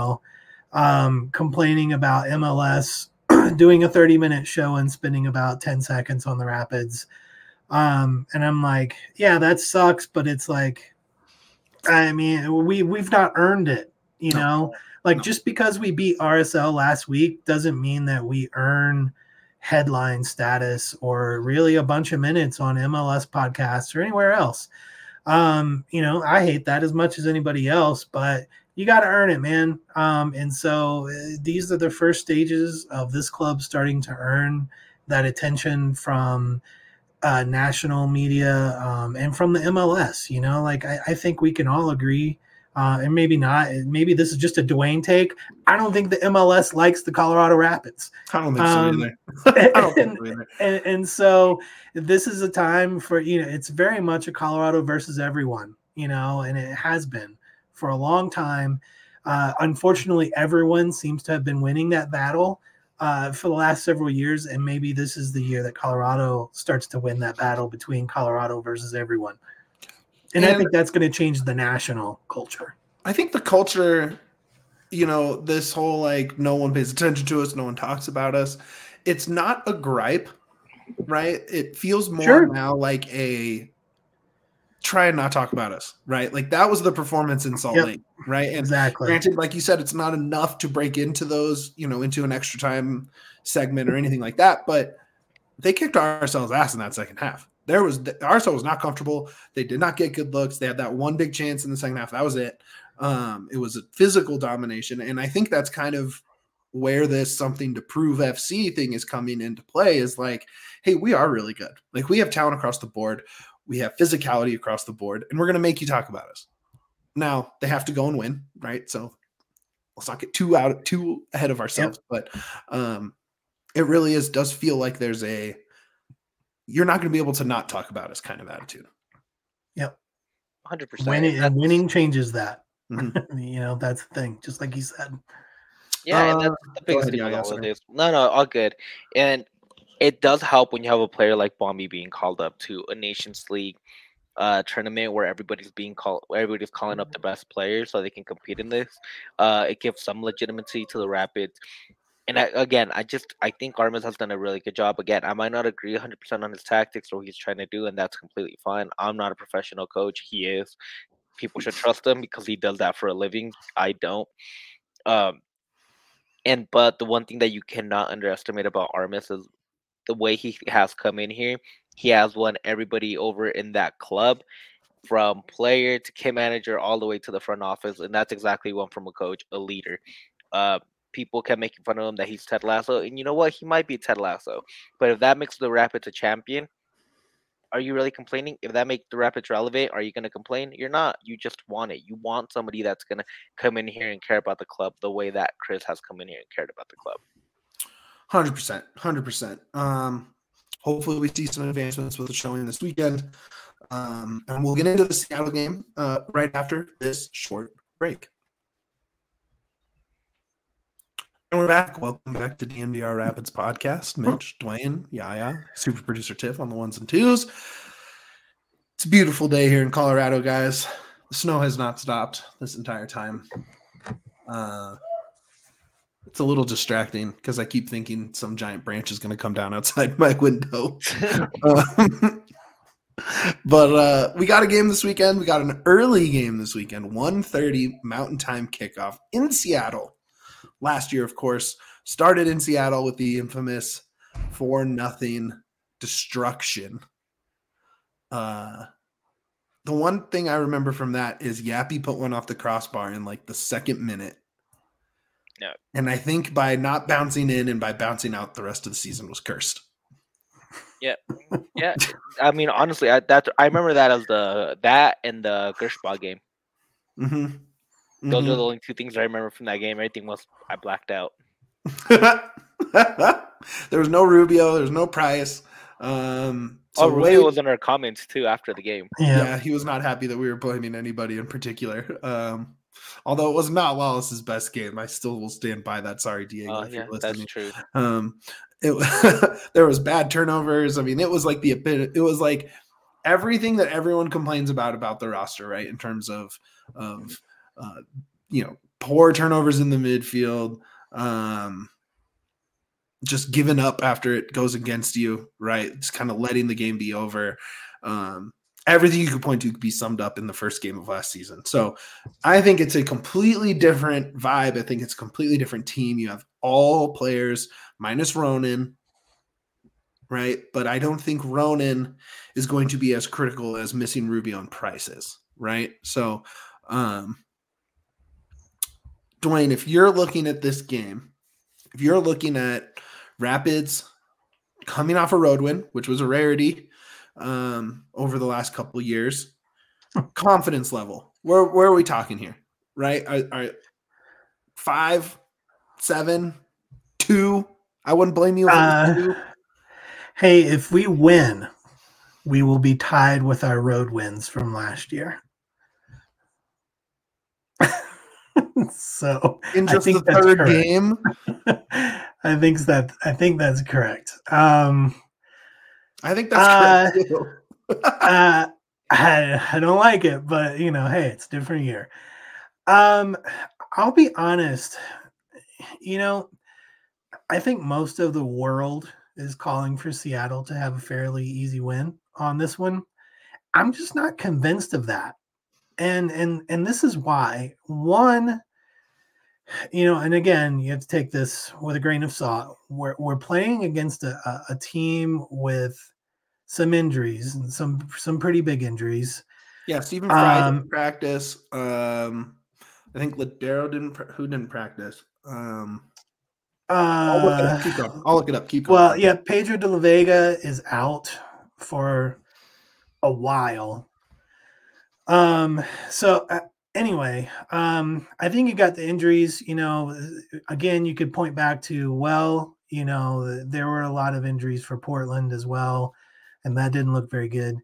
complaining about MLS doing a 30-minute show and spending about 10 seconds on the Rapids. And I'm like, yeah, that sucks, but it's like, I mean, we've not earned it, just because we beat RSL last week doesn't mean that we earn headline status or really a bunch of minutes on MLS podcasts or anywhere else. I hate that as much as anybody else, but you got to earn it, man. And so these are the first stages of this club starting to earn that attention from national media and from the MLS. I think we can all agree, and maybe not. Maybe this is just a Dwayne take. I don't think the MLS likes the Colorado Rapids. I don't think so either. I don't think so either. And so this is a time for, it's very much a Colorado versus everyone, and it has been for a long time. Unfortunately, everyone seems to have been winning that battle for the last several years, and maybe this is the year that Colorado starts to win that battle between Colorado versus everyone. And I think that's going to change the national culture. I think the culture, this whole like no one pays attention to us, no one talks about us. It's not a gripe, right? It feels more now like a try and not talk about us, right? Like that was the performance in Salt Lake, right? And exactly. Granted, like you said, it's not enough to break into those, into an extra time segment or anything like that, but they kicked ourselves ass in that second half. RSL was not comfortable. They did not get good looks. They had that one big chance in the second half. That was it. It was a physical domination. And I think that's kind of where this something to prove FC thing is coming into play is like, hey, we are really good. Like we have talent across the board. We have physicality across the board, and we're going to make you talk about us. Now they have to go and win, right? So let's not get too ahead of ourselves, but it really does feel like there's you're not going to be able to not talk about us kind of attitude. Yep. 100%. Winning changes that. Mm-hmm. That's the thing, just like you said. Yeah, and that's the biggest thing with all of this. No, all good. And it does help when you have a player like Bombi being called up to a Nations League tournament where everybody's calling up the best players so they can compete in this. It gives some legitimacy to the Rapids. And I think Armas has done a really good job. Again, I might not agree 100% on his tactics or what he's trying to do, and that's completely fine. I'm not a professional coach. He is. People should trust him because he does that for a living. I don't. But the one thing that you cannot underestimate about Armas is the way he has come in here. He has won everybody over in that club, from player to kit manager all the way to the front office, and that's exactly one from a coach, a leader. People kept making fun of him that he's Ted Lasso, and you know what? He might be Ted Lasso, but if that makes the Rapids a champion, are you really complaining? If that makes the Rapids relevant, are you going to complain? You're not. You just want it. You want somebody that's going to come in here and care about the club the way that Chris has come in here and cared about the club. 100%. Hopefully we see some advancements with the showing this weekend. And we'll get into the Seattle game right after this short break. And we're back. Welcome back to DNVR Rapids podcast. Mitch, Dwayne, Yaya, super producer Tiff on the ones and twos. It's a beautiful day here in Colorado, guys. The snow has not stopped this entire time. It's a little distracting because I keep thinking some giant branch is going to come down outside my window. But we got a game this weekend. We got an early game this weekend, 1:30 Mountain Time kickoff in Seattle. Last year, of course, started in Seattle with the infamous 4-0 destruction. The one thing I remember from that is Yappy put one off the crossbar in like the second minute. Yeah. And I think by not bouncing in and by bouncing out, the rest of the season was cursed. Yeah. Yeah. I mean, honestly, I remember that as that and the Gershbach game. Mm-hmm. Those are the only two things I remember from that game. Everything else I blacked out. There was no Rubio. There was no Price. Rubio was in our comments too after the game. Yeah, he was not happy that we were blaming anybody in particular. Although it was Matt Wallace's best game, I still will stand by that. Sorry, Diego, if you're listening. That's true. There was bad turnovers. I mean, it was like everything that everyone complains about the roster, right? In terms of poor turnovers in the midfield, just giving up after it goes against you, right? Just kind of letting the game be over. Everything you could point to could be summed up in the first game of last season. So I think it's a completely different vibe. I think it's a completely different team. You have all players minus Ronan, right? But I don't think Ronan is going to be as critical as missing Rubio and Price is, right? So, Dwayne, if you're looking at this game, if you're looking at Rapids coming off a road win, which was a rarity over the last couple of years, confidence level, where are we talking here, right? Are 5, 7, 2? I wouldn't blame you if it was 2. Hey, if we win, we will be tied with our road wins from last year. So in just the third game, I think that's correct. I think that's correct too. I don't like it, but hey, it's a different year. I'll be honest. You know, I think most of the world is calling for Seattle to have a fairly easy win on this one. I'm just not convinced of that. And this is why. One, and again, you have to take this with a grain of salt. We're playing against a team with some injuries and some pretty big injuries. Yeah, Stephen Fry didn't practice. I think Ladero who didn't practice. I'll look it up. Keep going. I'll look it up. Keep going. Well, yeah, Pedro de la Vega is out for a while. So anyway, I think you got the injuries. Again, you could point back to there were a lot of injuries for Portland as well, and that didn't look very good.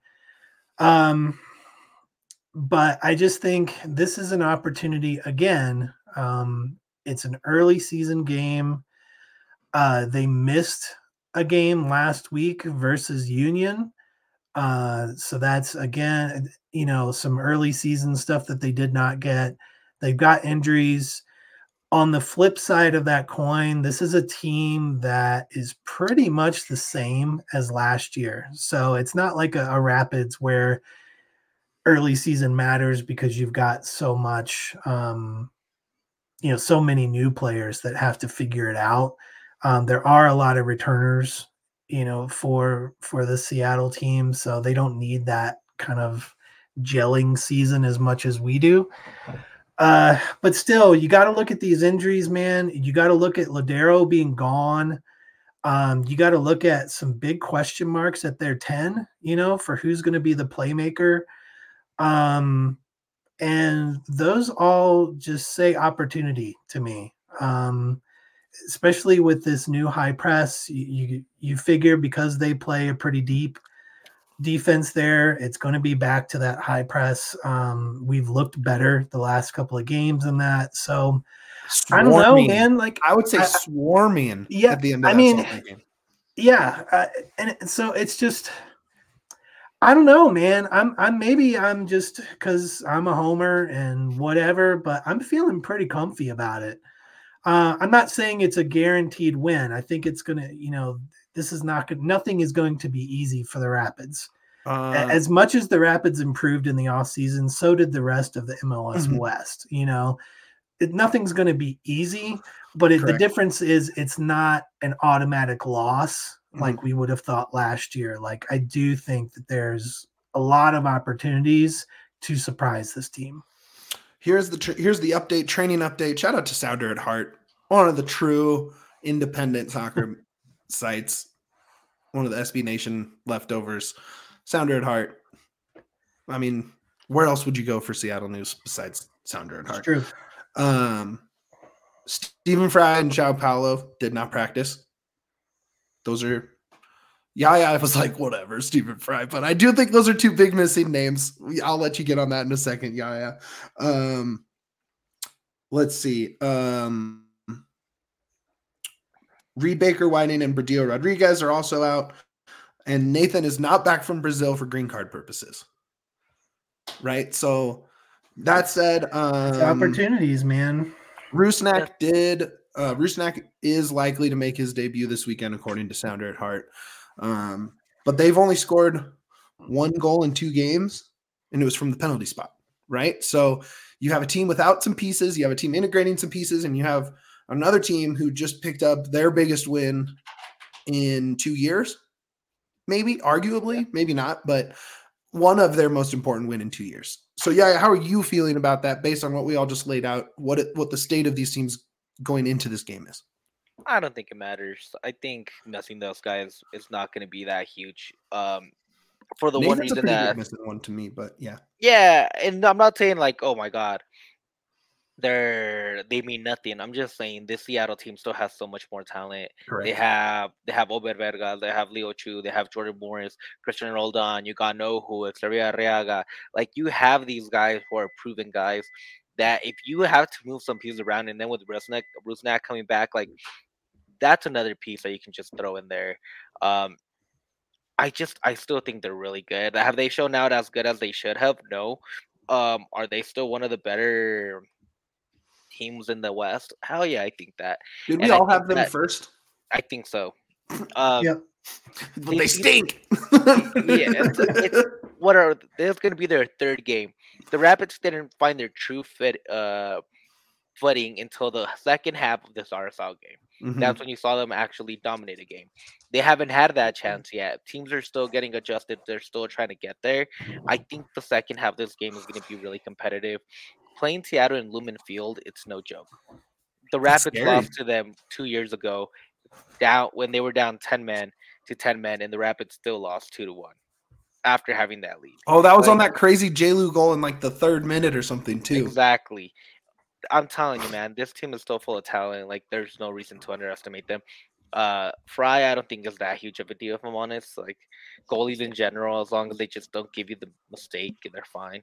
But I just think this is an opportunity again. It's an early season game. They missed a game last week versus Union. So that's again, some early season stuff that they did not get. They've got injuries. On the flip side of that coin, this is a team that is pretty much the same as last year. So it's not like a Rapids where early season matters because you've got so much, so many new players that have to figure it out. There are a lot of returners, for the Seattle team, so they don't need that kind of gelling season as much as we do. But still, you got to look at these injuries, man. You got to look at Ladero being gone. You got to look at some big question marks at their 10, for who's going to be the playmaker. And those all just say opportunity to me. Especially with this new high press, you figure because they play a pretty deep defense there, it's going to be back to that high press. We've looked better the last couple of games in that. So I don't know, man. Like I would say swarming. Yeah, at the end of that game. Yeah, and so it's just. I don't know, man. I'm just because I'm a homer and whatever, but I'm feeling pretty comfy about it. I'm not saying it's a guaranteed win. I think it's gonna, this is nothing is going to be easy for the Rapids. As much as the Rapids improved in the offseason, so did the rest of the MLS West. Nothing's going to be easy, but the difference is it's not an automatic loss like we would have thought last year. Like I do think that there's a lot of opportunities to surprise this team. Here's the update, training update. Shout out to Sounder at Heart, one of the true independent soccer sites, one of the SB Nation leftovers. Sounder at Heart. I mean, where else would you go for Seattle news besides Sounder at Heart? It's true. Stephen Fry and João Paulo did not practice. Those are I was like, whatever, Stephen Fry. But I do think those are two big missing names. I'll let you get on that in a second, let's see. Reed Baker, Whiting, and Bradillo Rodriguez are also out. And Nathan is not back from Brazil for green card purposes. Right? So that said, opportunities, man. Rusnak Rusnak is likely to make his debut this weekend, according to Sounder at Heart. But they've only scored 1 goal in 2 games, and it was from the penalty spot, right? So you have a team without some pieces, you have a team integrating some pieces, and you have another team who just picked up their biggest win in 2 years, maybe, arguably, maybe not, but one of their most important win in 2 years. So, how are you feeling about that based on what we all just laid out, what the state of these teams going into this game is? I don't think it matters. I think missing those guys is not going to be that huge. For the Nathan's one reason that missing one to me, but yeah, and I'm not saying like, oh my god, they mean nothing. I'm just saying this Seattle team still has so much more talent. Correct. They have Ober Verga, they have Leo Chu, they have Jordan Morris, Christian Roldan, you got Nohu, Xavier Arriaga. Like you have these guys who are proven guys that if you have to move some pieces around, and then with Rusnak coming back, like that's another piece that you can just throw in there. I still think they're really good. Have they shown out as good as they should have? No. Are they still one of the better teams in the West? Hell yeah, I think that. Did we And I all think have them that first? I think so. Um, Yep. But they stink. yeah, it's what are this is going to be their third game. The Rapids didn't find their true footing until the second half of this RSL game. Mhm. That's when you saw them actually dominate a game. They haven't had that chance yet. Teams are still getting adjusted. They're still trying to get there. I think the second half of this game is going to be really competitive. Playing Seattle in Lumen Field, it's no joke. The That's Rapids scary. lost to them 2 years ago, down when they were down 10 men to 10 men, and the Rapids still lost 2-1 after having that lead. Oh, that was on Like, that crazy J-Lu goal in like the 3rd minute or something too. exactly. I'm telling you, man, this team is still full of talent. Like, there's no reason to underestimate them. Fry, I don't think is that huge of a deal, if I'm honest. Like, goalies in general, as long as they just don't give you the mistake, they're fine.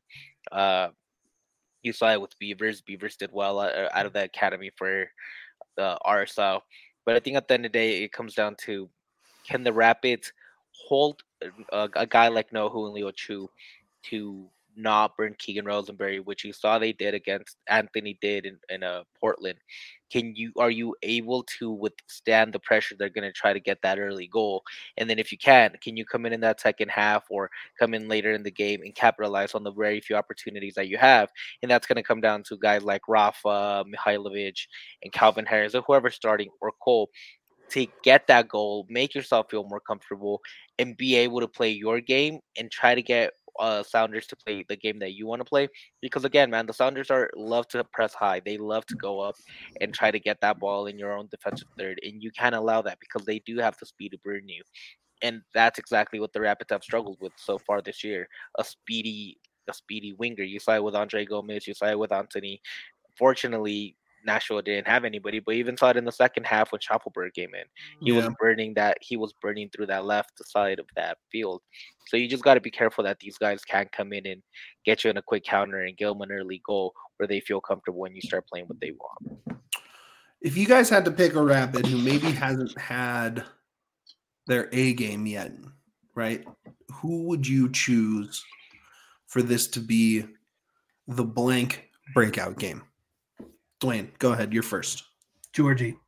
You saw it with Beavers. Beavers did well out of the academy for the RSL. But I think at the end of the day, it comes down to, can the Rapids hold a guy like Nohu and Leo Chu to not burn Keegan Rosenberry, which you saw they did against Anthony did in Portland. Are you able to withstand the pressure they're going to try to get that early goal? And then if you can you come in that second half or come in later in the game and capitalize on the very few opportunities that you have? And that's going to come down to guys like Rafa, Mihailovic, and Calvin Harris, or whoever's starting, or Cole, to get that goal, make yourself feel more comfortable, and be able to play your game and try to get Sounders to play the game that you want to play. Because again, man, the Sounders love to press high. They love to go up and try to get that ball in your own defensive third, and you can't allow that because they do have the speed to burn you. And that's exactly what the Rapids have struggled with so far this year. A speedy winger. You saw it with Andre Gomez. You saw it with Anthony. Fortunately, Nashville didn't have anybody, but even saw it in the second half when Schaffenberg came in. He was burning through that left side of that field. So you just got to be careful that these guys can't come in and get you in a quick counter and give them an early goal where they feel comfortable when you start playing what they want. If you guys had to pick a Rapid who maybe hasn't had their A game yet, right? Who would you choose for this to be the blank breakout game? Dwayne, go ahead. You're first. Georgie.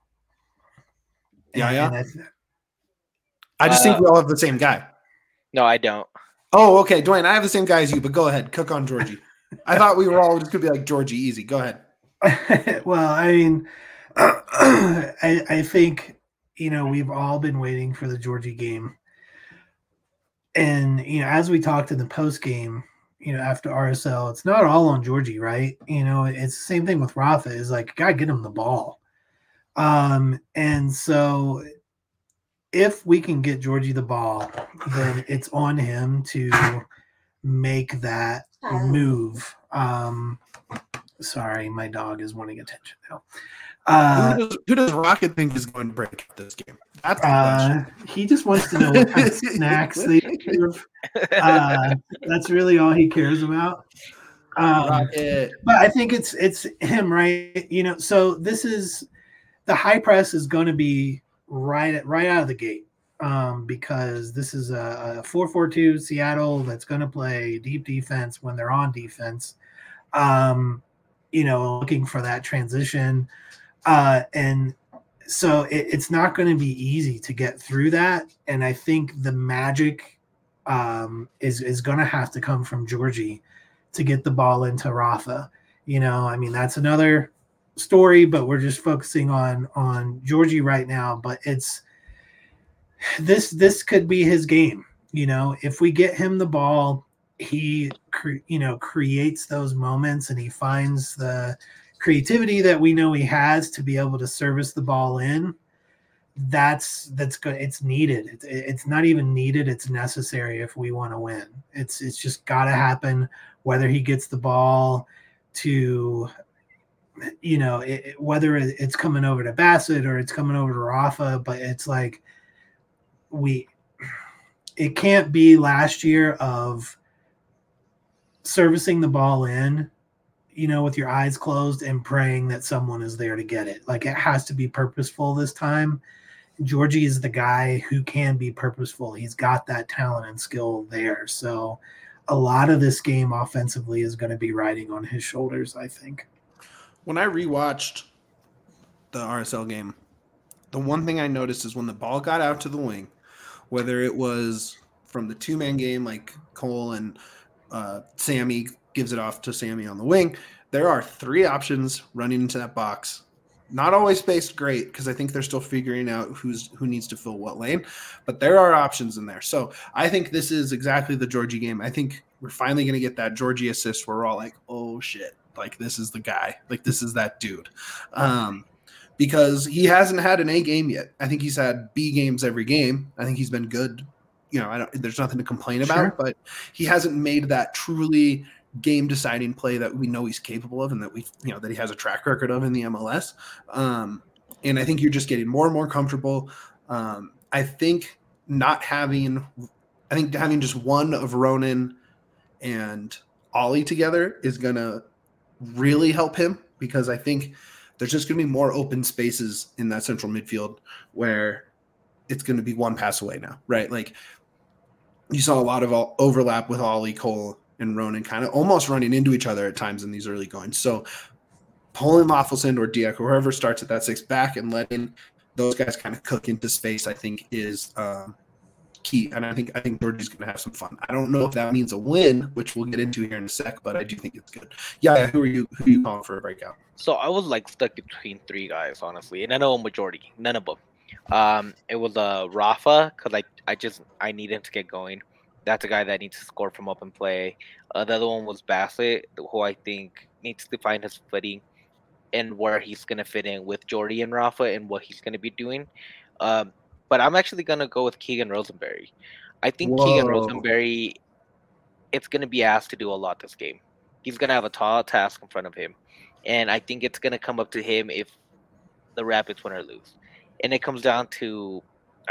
Yeah. I just think we all have the same guy. No, I don't. Oh, okay. Dwayne, I have the same guy as you, but go ahead. Cook on Georgie. I thought we were all just going to be like Georgie. Easy. Go ahead. Well, I mean, I think, we've all been waiting for the Georgie game. And, as we talked in the post game, after RSL, it's not all on Georgie, right? It's the same thing with Rafa. Is like, gotta get him the ball. And so if we can get Georgie the ball, then it's on him to make that move. Sorry, my dog is wanting attention now. Who does Rocket think is going to break this game? That's the question. He just wants to know what kind of snacks they give. That's really all he cares about. Rocket. But I think it's him, right? So this is the high press is going to be right out of the gate, because this is a 4-4-2 Seattle that's going to play deep defense when they're on defense. Looking for that transition. And so it's not going to be easy to get through that. And I think the magic is going to have to come from Georgie to get the ball into Rafa. That's another story, but we're just focusing on Georgie right now. But it's this could be his game. If we get him the ball, he creates those moments and he finds the creativity that we know he has to be able to service the ball in. That's good. It's needed. It's not even needed. It's necessary if we want to win. It's just got to happen, whether he gets the ball to, whether it's coming over to Bassett or it's coming over to Rafa, but it's like it can't be last year of servicing the ball in, with your eyes closed and praying that someone is there to get it. Like, it has to be purposeful this time. Georgie is the guy who can be purposeful. He's got that talent and skill there. So a lot of this game offensively is going to be riding on his shoulders, I think. When I rewatched the RSL game, the one thing I noticed is when the ball got out to the wing, whether it was from the two-man game like Cole and Sammy gives it off to Sammy on the wing, there are 3 options running into that box. Not always spaced great because I think they're still figuring out who needs to fill what lane, but there are options in there. So I think this is exactly the Georgie game. I think we're finally going to get that Georgie assist where we're all like, oh shit, like this is the guy, like this is that dude. Because he hasn't had an A game yet. I think he's had B games every game. I think he's been good. There's nothing to complain about, but he hasn't made that truly game-deciding play that we know he's capable of and that that he has a track record of in the MLS. And I think you're just getting more and more comfortable. I think having just one of Ronan and Ollie together is going to really help him, because I think there's just going to be more open spaces in that central midfield where it's going to be one pass away now, right? Like you saw a lot of overlap with Ollie, Cole, and Ronan kind of almost running into each other at times in these early goings. So pulling Lofelson or Dieck or whoever starts at that 6 back and letting those guys kind of cook into space, I think is key. And I think Georgie's going to have some fun. I don't know if that means a win, which we'll get into here in a sec, but I do think it's good. Yeah, who are you calling for a breakout? So I was like stuck between 3 guys, honestly, and I know a majority, none of them. It was Rafa, because I need him to get going. That's a guy that needs to score from open play. The other one was Bassett, who I think needs to find his footing and where he's going to fit in with Jordy and Rafa and what he's going to be doing. But I'm actually going to go with Keegan Rosenberry. I think Keegan Rosenberry, it's going to be asked to do a lot this game. He's going to have a tall task in front of him. And I think it's going to come up to him if the Rapids win or lose. And it comes down to,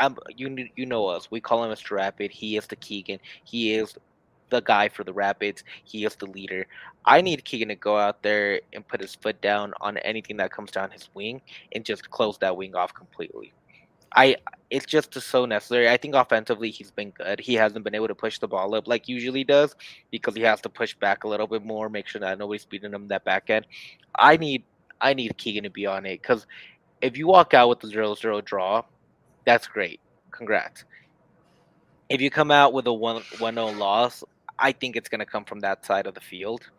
you know us. We call him Mr. Rapid. He is the Keegan. He is the guy for the Rapids. He is the leader. I need Keegan to go out there and put his foot down on anything that comes down his wing and just close that wing off completely. It's just so necessary. I think offensively he's been good. He hasn't been able to push the ball up like he usually does because he has to push back a little bit more, make sure that nobody's beating him that back end. I need Keegan to be on it, because if you walk out with the 0-0 draw, that's great. Congrats. If you come out with a 1-0 loss, I think it's going to come from that side of the field.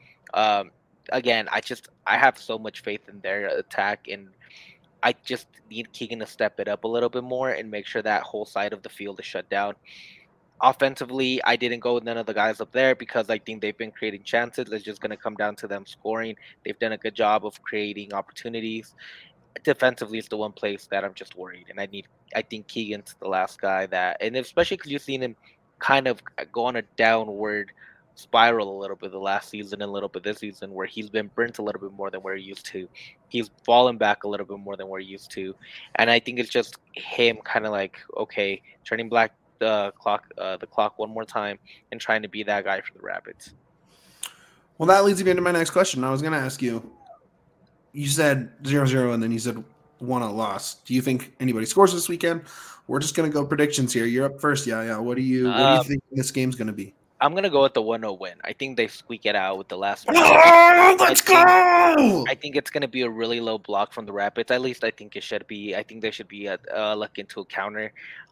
Again, I have so much faith in their attack, and I just need Keegan to step it up a little bit more and make sure that whole side of the field is shut down. Offensively, I didn't go with none of the guys up there because I think they've been creating chances. It's just going to come down to them scoring. They've done a good job of creating opportunities. Defensively, it's the one place that I'm just worried, and I think Keegan's the last guy that, and especially because you've seen him kind of go on a downward spiral a little bit the last season and a little bit this season, where he's been burnt a little bit more than we're used to. He's fallen back a little bit more than we're used to, and I think it's just him kind of like, okay, turning back the clock one more time and trying to be that guy for the Rapids. Well, that leads me into my next question. I was going to ask you. You said 0-0 and then you said 1-0 loss. Do you think anybody scores this weekend? We're just going to go predictions here. You're up first. Yeah. What do you think this game's going to be? I'm going to go with the 1-0 win. I think they squeak it out with the last one. Let's go! I think it's going to be a really low block from the Rapids. At least I think it should be. I think they should be looking to a counter.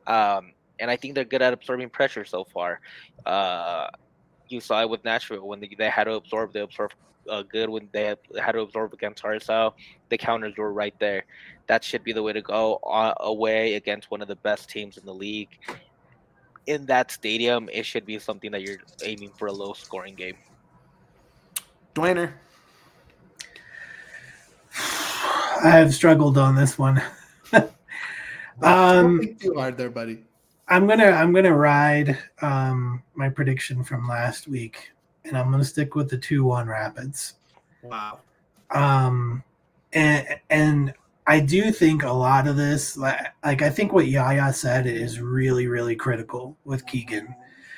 And I think they're good at absorbing pressure so far. You saw it with Nashville when they had to absorb. They absorbed good when they had to absorb against RSL. The counters were right there. That should be the way to go away against one of the best teams in the league. In that stadium, it should be something that you're aiming for, a low-scoring game. Dwayner. I have struggled on this one. Don't think too hard there, buddy. I'm gonna ride my prediction from last week, and I'm gonna stick with the 2-1 Rapids. Wow. And I do think a lot of this, like I think what Yaya said is really, really critical with Keegan.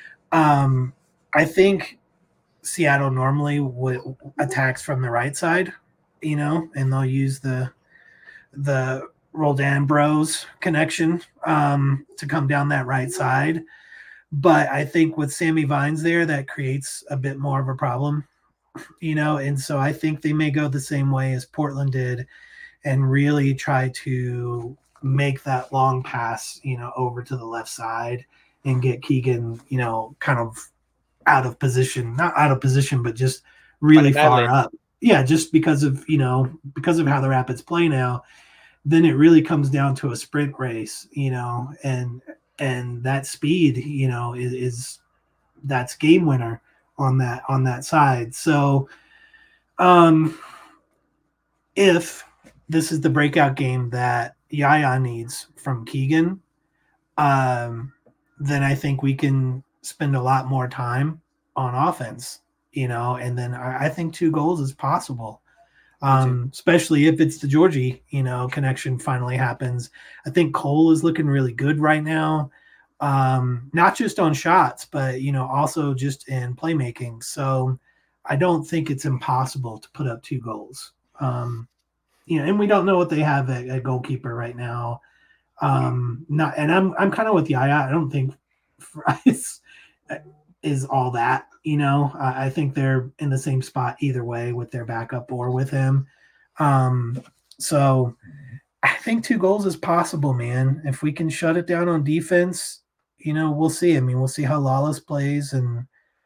I think Seattle normally attacks from the right side, and they'll use the Roldan Bros connection to come down that right side. But I think with Sammy Vines there, that creates a bit more of a problem, and so I think they may go the same way as Portland did and really try to make that long pass, over to the left side and get Keegan, kind of out of position, not out of position, but just really far up. Yeah, just because of how the Rapids play now, then it really comes down to a sprint race, and that speed, is that's game winner on that side. So if this is the breakout game that Yaya needs from Keegan, then I think we can spend a lot more time on offense, and then I think 2 goals is possible. Especially if it's the Georgie, connection finally happens. I think Cole is looking really good right now. Not just on shots, but, also just in playmaking. So I don't think it's impossible to put up 2 goals. And we don't know what they have at goalkeeper right now. I'm kind of with Yaya. I don't think Fries is all that, I think they're in the same spot either way with their backup or with him. So I think 2 goals is possible, man. If we can shut it down on defense, we'll see. I mean, we'll see how Lawless plays, and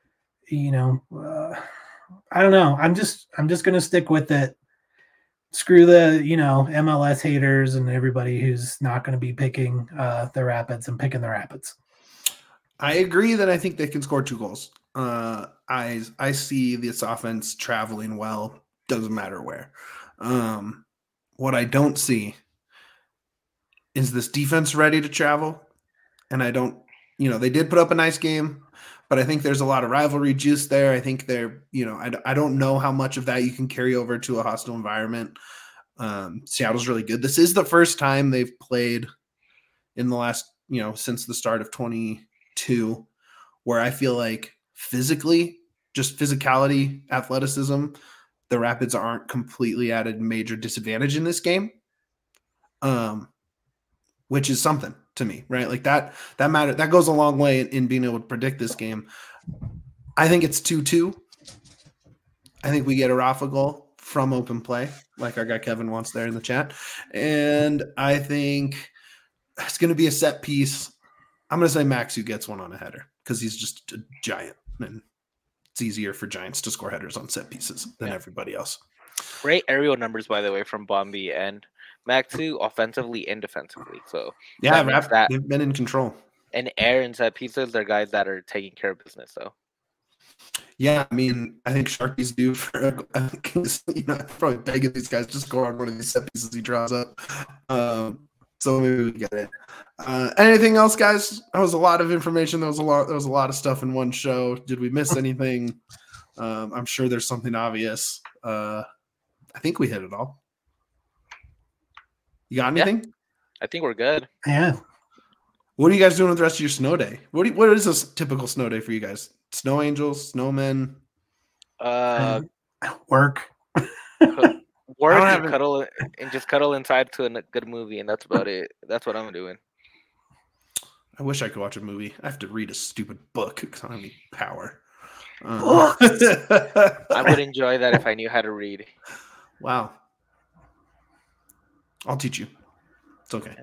I don't know. I'm just gonna stick with it. Screw the MLS haters and everybody who's not going to be picking the Rapids and picking the Rapids. I agree that I think they can score 2 goals. I see this offense traveling well. Doesn't matter where. What I don't see is this defense ready to travel. And I don't, they did put up a nice game, but I think there's a lot of rivalry juice there. I think they're, I don't know how much of that you can carry over to a hostile environment. Seattle's really good. This is the first time they've played in the last, since the start of 22, where I feel like physically, just physicality, athleticism, the Rapids aren't completely at a major disadvantage in this game, which is something to me, right? Like that matter, that goes a long way in being able to predict this game. I think it's 2-2. I think we get a Rafa goal from open play, like our guy Kevin wants there in the chat. And I think it's going to be a set piece. I'm going to say Max who gets one on a header because he's just a giant, and it's easier for giants to score headers on set pieces than everybody else. Great aerial numbers, by the way, from Bombi and Maxu, offensively and defensively. So yeah, they've been in control. And air and set pieces, they're guys that are taking care of business. So yeah, I mean, I think Sharky's due for probably begging these guys to score on one of these set pieces he draws up. So maybe we get it. Anything else, guys? That was a lot of information. There was a lot of stuff in one show. Did we miss anything? I'm sure there's something obvious. I think we hit it all. You got anything? Yeah, I think we're good. Yeah. What are you guys doing with the rest of your snow day? What is a typical snow day for you guys? Snow angels, snowmen? Work. And cuddle and just cuddle inside to a good movie, and that's about it. That's what I'm doing. I wish I could watch a movie. I have to read a stupid book because I don't have any power. I would enjoy that if I knew how to read. Wow. I'll teach you. It's okay.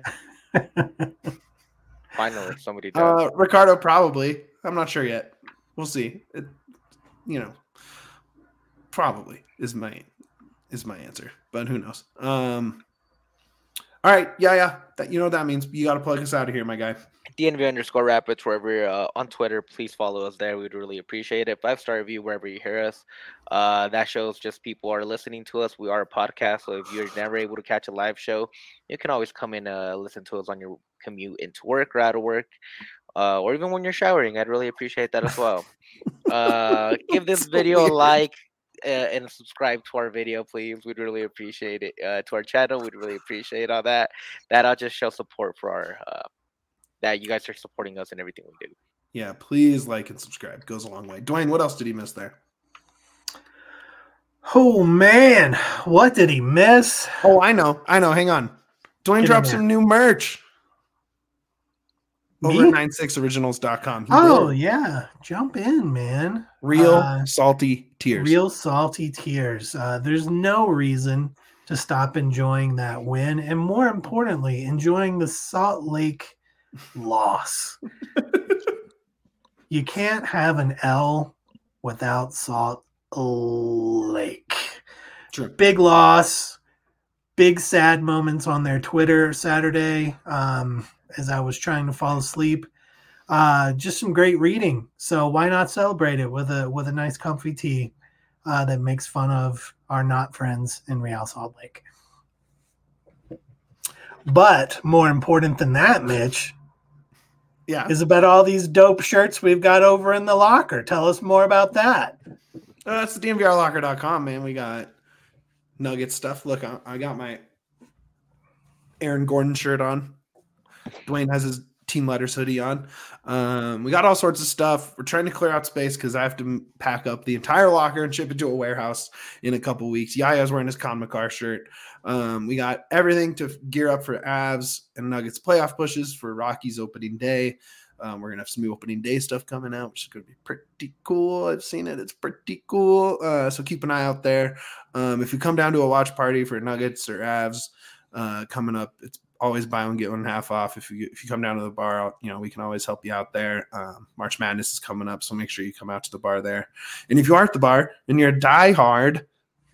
Finally, somebody does. Ricardo, probably. I'm not sure yet. We'll see. Probably is my answer, but who knows? All right. Yeah. You know what that means. You got to plug us out of here, my guy. DNV_Rapids, wherever you're on Twitter, please follow us there. We'd really appreciate it. 5-star review wherever you hear us. That shows just people are listening to us. We are a podcast, so if you're never able to catch a live show, you can always come in listen to us on your commute into work or out of work, or even when you're showering. I'd really appreciate that as well. Give this video a like and subscribe to our video, please. We'd really appreciate it. To our channel, we'd really appreciate all that. That'll just show support for our that you guys are supporting us in everything we do. Yeah, please like and subscribe. It goes a long way. Dwayne, what else did he miss there? Oh man, what did he miss? Oh, I know. Hang on. Dwayne Get in dropped there. some new merch over Me? at 96originals.com. Oh, yeah. Jump in, man. Real salty tears. Real salty tears. There's no reason to stop enjoying that win. And more importantly, enjoying the Salt Lake loss. You can't have an L without Salt Lake. True. Big loss. Big sad moments on their Twitter Saturday as I was trying to fall asleep. Just some great reading. So why not celebrate it with a nice comfy tee that makes fun of our not friends in Real Salt Lake. But more important than that, Mitch, is about all these dope shirts we've got over in the locker. Tell us more about that. That's the DNVRlocker.com, man. We got Nugget stuff. Look, I got my Aaron Gordon shirt on. Dwayne has his Team Letters hoodie on. We got all sorts of stuff. We're trying to clear out space because I have to pack up the entire locker and ship it to a warehouse in a couple weeks. Yaya's wearing his Con McCarr shirt. We got everything to gear up for Avs and Nuggets playoff pushes for Rockies opening day. We're going to have some new opening day stuff coming out, which is going to be pretty cool. I've seen it. It's pretty cool. So keep an eye out there. If you come down to a watch party for Nuggets or Avs coming up, it's always buy one, get one half off. If you come down to the bar, we can always help you out there. March Madness is coming up, so make sure you come out to the bar there. And if you are at the bar and you're a diehard,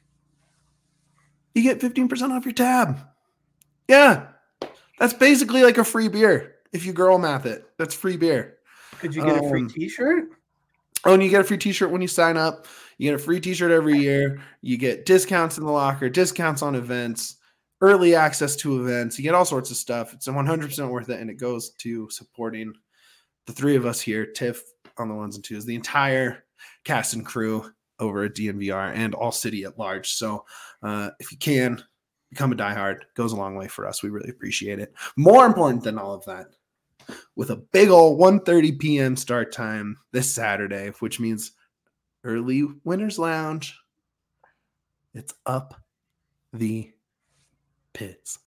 you get 15% off your tab. Yeah, that's basically like a free beer. If you girl math it, that's free beer. Could you get a free t-shirt? Oh, and you get a free t-shirt when you sign up. You get a free t-shirt every year. You get discounts in the locker, discounts on events, early access to events. You get all sorts of stuff. It's 100% worth it, and it goes to supporting the three of us here, Tiff on the ones and twos, the entire cast and crew over at DNVR and all city at large. So if you can, become a diehard. Goes a long way for us. We really appreciate it. More important than all of that, with a big old 1:30 p.m. start time this Saturday, which means early Winners Lounge. It's up the pits.